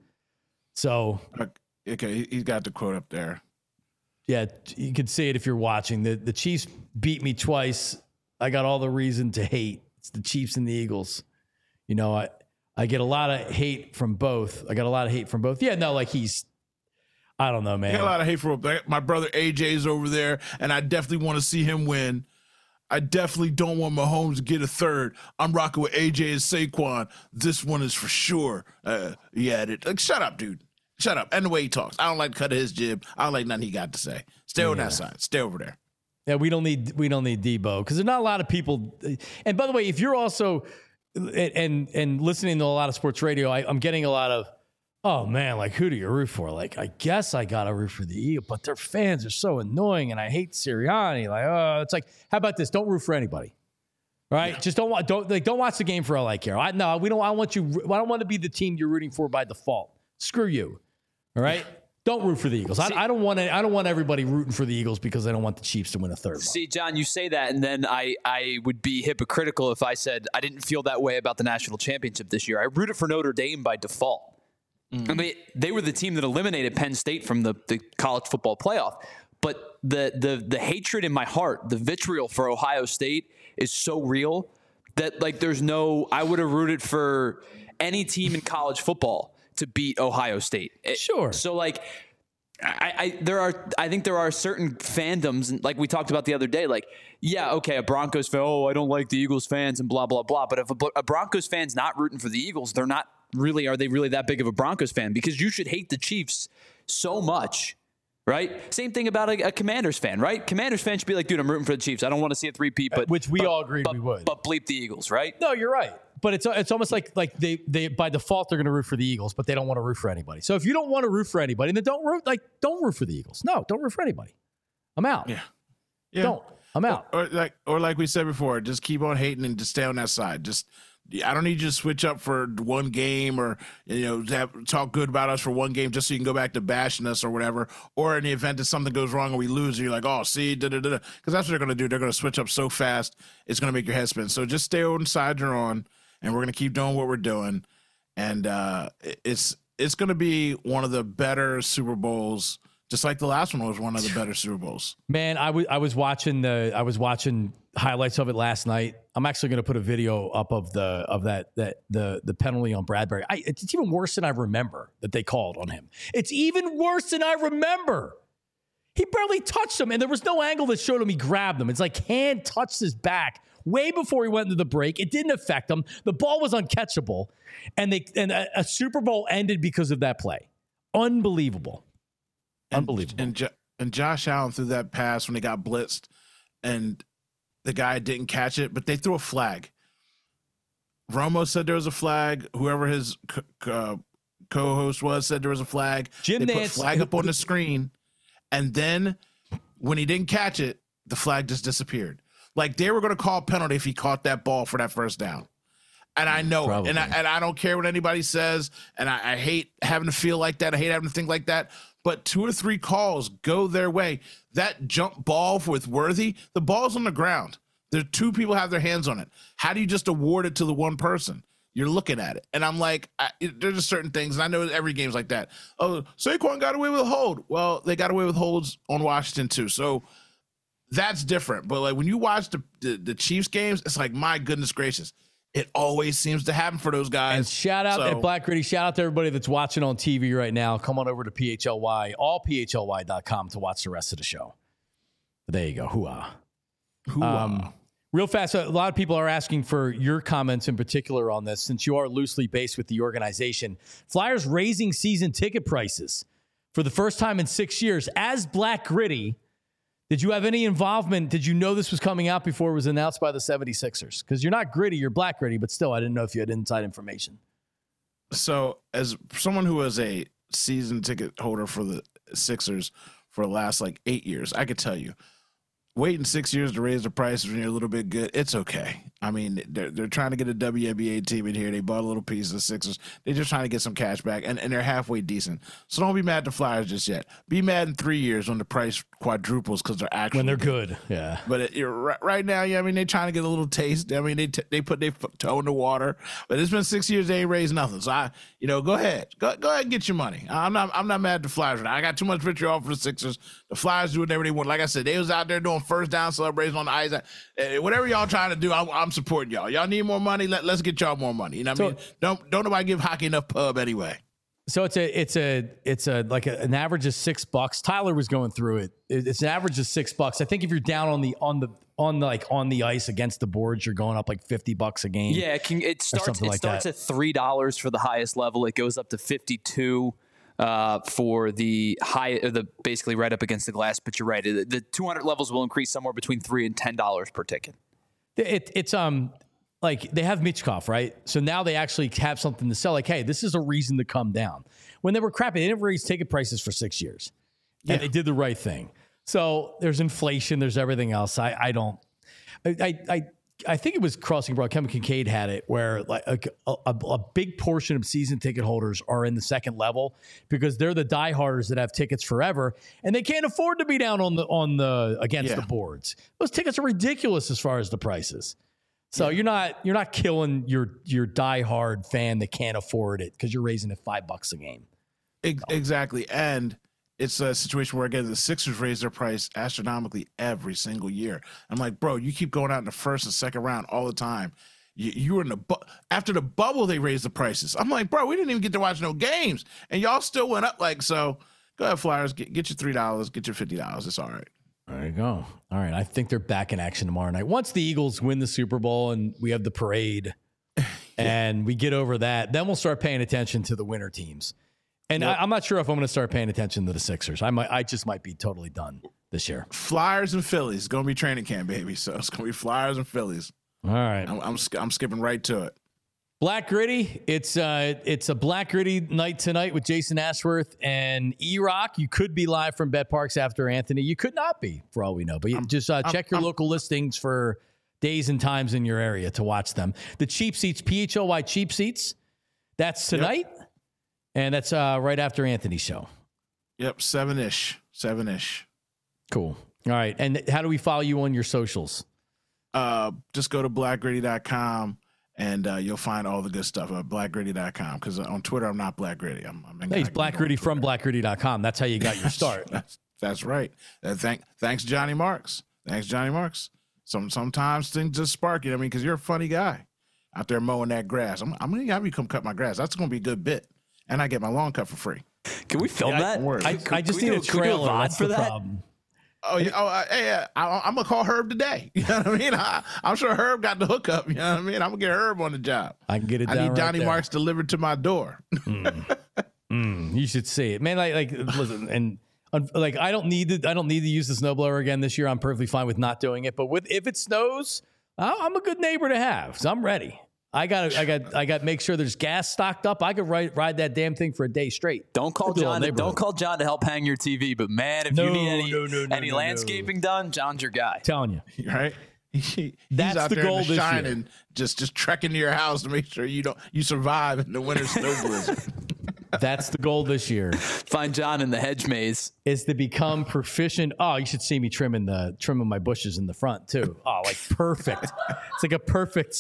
So. Okay. He's got the quote up there. Yeah. You can see it if you're watching. The, the Chiefs beat me twice. I got all the reason to hate. It's the Chiefs and the Eagles. You know, I, I get a lot of hate from both. I got a lot of hate from both. Yeah. No, like he's, I don't know, man. I got a lot of hate for my brother A J's over there, and I definitely want to see him win. I definitely don't want Mahomes to get a third. I'm rocking with A J and Saquon. This one is for sure. Uh, he added, like, shut up, dude. Shut up. And the way he talks. I don't like to cut his jib. I don't like nothing he got to say. Stay yeah. on that side. Stay over there. Yeah, we don't need we don't need Debo because there's not a lot of people. And by the way, if you're also and and listening to a lot of sports radio, I, I'm getting a lot of. Oh, man, like, who do you root for? Like, I guess I got to root for the Eagles, but their fans are so annoying, and I hate Sirianni. Like, oh, it's like, how about this? Don't root for anybody. Right? Yeah. Just don't want don't like don't watch the game for all I care. I no, we don't. I want you. I don't want to be the team you're rooting for by default. Screw you. All right. Yeah. Don't root for the Eagles. See, I, I don't want to, I don't want everybody rooting for the Eagles because I don't want the Chiefs to win a third one. See, John, you say that, and then I, I would be hypocritical if I said I didn't feel that way about the national championship this year. I rooted for Notre Dame by default. Mm. I mean, they were the team that eliminated Penn State from the, the college football playoff. But the the the hatred in my heart, the vitriol for Ohio State is so real that like there's no. I would have rooted for any team in college football to beat Ohio State. Sure. So like, I, I there are I think there are certain fandoms, and like we talked about the other day. Like, yeah, okay, a Broncos fan. Oh, I don't like the Eagles fans and blah blah blah. But if a, a Broncos fan's not rooting for the Eagles, they're not really. Are they really that big of a Broncos fan? Because you should hate the Chiefs so much, right? Same thing about a, a Commanders fan, right? Commanders fan should be like, dude, I'm rooting for the Chiefs. I don't want to see a three-peat, but which we but, all agree but, we would. But bleep the Eagles, right? No, you're right. But it's it's almost like like they they by default they're going to root for the Eagles, but they don't want to root for anybody. So if you don't want to root for anybody, then don't root like don't root for the Eagles. No, don't root for anybody. I'm out. Yeah, yeah. Don't. I'm out. Or, or like or like we said before, just keep on hating and just stay on that side. Just I don't need you to switch up for one game or you know have, talk good about us for one game just so you can go back to bashing us or whatever. Or in the event that something goes wrong and we lose, you're like, oh, see, da da da. Because that's what they're going to do. They're going to switch up so fast, it's going to make your head spin. So just stay on the side you're on. And we're going to keep doing what we're doing. And uh, it's it's going to be one of the better Super Bowls, just like the last one was one of the better Super Bowls. Man, I was I was watching the I was watching highlights of it last night. I'm actually going to put a video up of the of that that the the penalty on Bradbury. I, it's even worse than I remember that they called on him. It's even worse than I remember. He barely touched him, and there was no angle that showed him he grabbed him. It's like hand touched his back way before he went into the break. It didn't affect him. The ball was uncatchable, and they and a, a Super Bowl ended because of that play. Unbelievable, and, unbelievable. And, and Josh Allen threw that pass when he got blitzed, and the guy didn't catch it, but they threw a flag. Romo said there was a flag. Whoever his uh, co-host was said there was a flag. Jim they Nance, put flag up on the screen. And then when he didn't catch it, the flag just disappeared. Like they were going to call a penalty if he caught that ball for that first down. And I know it. And I, and I don't care what anybody says. And I, I hate having to feel like that. I hate having to think like that. But two or three calls go their way. That jump ball with Worthy, the ball's on the ground. There two people have their hands on it. How do you just award it to the one person? You're looking at it. And I'm like, I, it, there's just certain things. And I know every game's like that. Oh, Saquon got away with a hold. Well, they got away with holds on Washington too. So that's different. But like when you watch the, the, the Chiefs games, it's like, my goodness gracious. It always seems to happen for those guys. And shout out so, at Black Gritty, shout out to everybody that's watching on T V right now. Come on over to P H L Y, all P H L Y dot com to watch the rest of the show. But there you go. Hoo-ah. Hoo-ah. Um, Real fast, a lot of people are asking for your comments in particular on this, since you are loosely based with the organization. Flyers raising season ticket prices for the first time in six years. As Black Gritty, did you have any involvement? Did you know this was coming out before it was announced by the seventy-sixers? Because you're not Gritty, you're Black Gritty, but still, I didn't know if you had inside information. So as someone who was a season ticket holder for the Sixers for the last like eight years, I could tell you, waiting six years to raise the prices when you're a little bit good, it's okay. I mean, they're they're trying to get a W N B A team in here. They bought a little piece of the Sixers. They're just trying to get some cash back, and, and they're halfway decent. So don't be mad at the Flyers just yet. Be mad in three years when the price quadruples because they're actually when they're good. good. Yeah. But it, you're, right, right now, yeah, I mean, they're trying to get a little taste. I mean, they t- they put their toe in the water. But it's been six years, they ain't raised nothing. So I, you know, go ahead, go go ahead and get your money. I'm not I'm not mad at the Flyers right now. I got too much vitriol for the Sixers. The Flyers do whatever they want. Like I said, they was out there doing first down celebrations on the ice. Uh, whatever y'all trying to do, I'm, I'm supporting y'all. Y'all need more money. Let, let's get y'all more money. You know what so, I mean? Don't don't nobody give hockey enough pub anyway. So it's a it's a it's a like a, an average of six bucks. Tyler was going through it. It's an average of six bucks. I think if you're down on the on the on the, like on the ice against the boards, you're going up like fifty bucks a game. Yeah, it, can, it starts it like starts that. at three dollars for the highest level. It goes up to fifty two. Uh, for the high, the basically right up against the glass, but you're right. The, the two hundred levels will increase somewhere between three and ten dollars per ticket. It, it's um like they have Michkov, right? So now they actually have something to sell. Like, hey, this is a reason to come down. When they were crappy, they didn't raise ticket prices for six years, yeah. and they did the right thing. So there's inflation, there's everything else. I I don't, I I I think it was Crossing Broad. Kevin Kincaid had it where like a, a, a big portion of season ticket holders are in the second level because they're the dieharders that have tickets forever and they can't afford to be down on the on the against Yeah. the boards. Those tickets are ridiculous as far as the prices. So yeah. you're not you're not killing your your diehard fan that can't afford it because you're raising it five bucks a game. Exactly, and it's a situation where, again, the Sixers raise their price astronomically every single year. I'm like, bro, you keep going out in the first and second round all the time. You, you were in the bu- after the bubble, they raised the prices. I'm like, bro, we didn't even get to watch no games, and y'all still went up. Like, so go ahead, Flyers, get, get your three dollars, get your fifty dollars. It's all right. There you go. All right, I think they're back in action tomorrow night. Once the Eagles win the Super Bowl and we have the parade, yeah. and we get over that, then we'll start paying attention to the winter teams. And yep. I, I'm not sure if I'm going to start paying attention to the Sixers. I might, I just might be totally done this year. Flyers and Phillies. It's going to be training camp, baby. So it's going to be Flyers and Phillies. All right. I'm, I'm, I'm skipping right to it. Black Gritty. It's uh, it's a Black Gritty night tonight with Jason Ashworth and E-Rock. You could be live from Bet Parks after Anthony. You could not be, for all we know. But you just uh, check your I'm, local listings for days and times in your area to watch them. The Cheap Seats, P H L Y Cheap Seats. That's tonight. Yep. And that's uh, right after Anthony's show. Yep, seven-ish. Seven-ish. Cool. All right. And how do we follow you on your socials? Uh, just go to black gritty dot com and uh, you'll find all the good stuff at black gritty dot com because on Twitter, I'm not Black Gritty. I'm, I'm hey, he's Black Gritty from black gritty dot com. That's how you got your start. that's, that's right. Uh, thank, thanks, Johnny Marks. Thanks, Johnny Marks. Some, sometimes things just spark you. I mean, because you're a funny guy out there mowing that grass. I'm, I'm going to have you come cut my grass. That's going to be a good bit. And I get my lawn cut for free. Can we film yeah, that? I, I, I just need a trailer. That's for that. Problem. Oh, yeah. Oh, uh, hey, I, I'm going to call Herb today. You know what I mean? I, I'm sure Herb got the hookup. You know what I mean? I'm going to get Herb on the job. I can get it I down need Johnny right Marks delivered to my door. mm. Mm, you should see it. Man, like, like listen, and like I don't need to I don't need to use the snowblower again this year. I'm perfectly fine with not doing it. But with if it snows, I'm a good neighbor to have. So I'm ready. I got I got I got to make sure there's gas stocked up. I could ride ride that damn thing for a day straight. Don't call John. To, don't call John to help hang your T V. But man, if no, you need any no, no, no, any no, landscaping no. done, John's your guy. I'm telling you, right? He, That's he's out the there goal in the this shine year. And just just trekking to your house to make sure you don't you survive in the winter snow blizzard. That's the goal this year. Find John in the hedge maze. Is to become proficient. Oh, you should see me trimming the trimming my bushes in the front too. Oh, like perfect. It's like a perfect.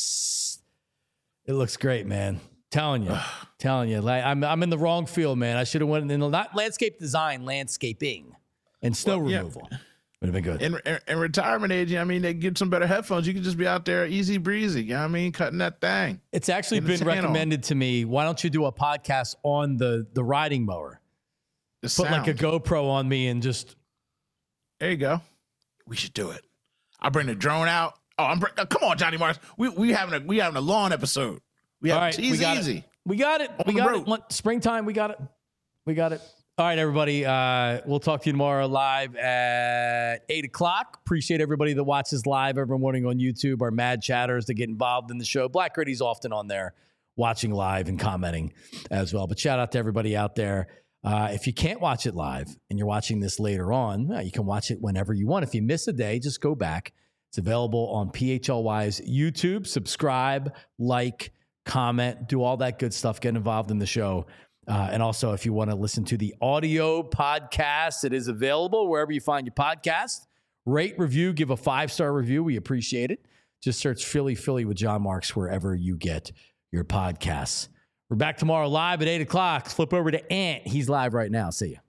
It looks great, man. Telling you, telling you. Like I'm, I'm in the wrong field, man. I should have went in not landscape design, landscaping, and snow well, removal. Yeah. Would have been good. In, in, in retirement age, I mean, they get some better headphones. You can just be out there easy breezy. You know what I mean? Cutting that thing. It's actually been recommended on. to me. Why don't you do a podcast on the the riding mower? The Put sound. like a GoPro on me and just. There you go. We should do it. I'll bring the drone out. Oh, I'm bring, uh, come on, Johnny Marks. We we having a we having a lawn episode. We have All right, easy, we got easy. It. We got it. On we got road. it. Springtime. We got it. We got it. All right, everybody. Uh, we'll talk to you tomorrow live at eight o'clock. Appreciate everybody that watches live every morning on YouTube. Our mad chatters that get involved in the show. Black Gritty's often on there watching live and commenting as well. But shout out to everybody out there. Uh, if you can't watch it live and you're watching this later on, well, you can watch it whenever you want. If you miss a day, just go back. It's available on P H L Y's YouTube. Subscribe, like, comment, do all that good stuff. Get involved in the show. Uh, and also, if you want to listen to the audio podcast, it is available wherever you find your podcast. Rate, review, give a five-star review. We appreciate it. Just search Philly, Philly with John Marks wherever you get your podcasts. We're back tomorrow live at eight o'clock. Flip over to Ant. He's live right now. See you.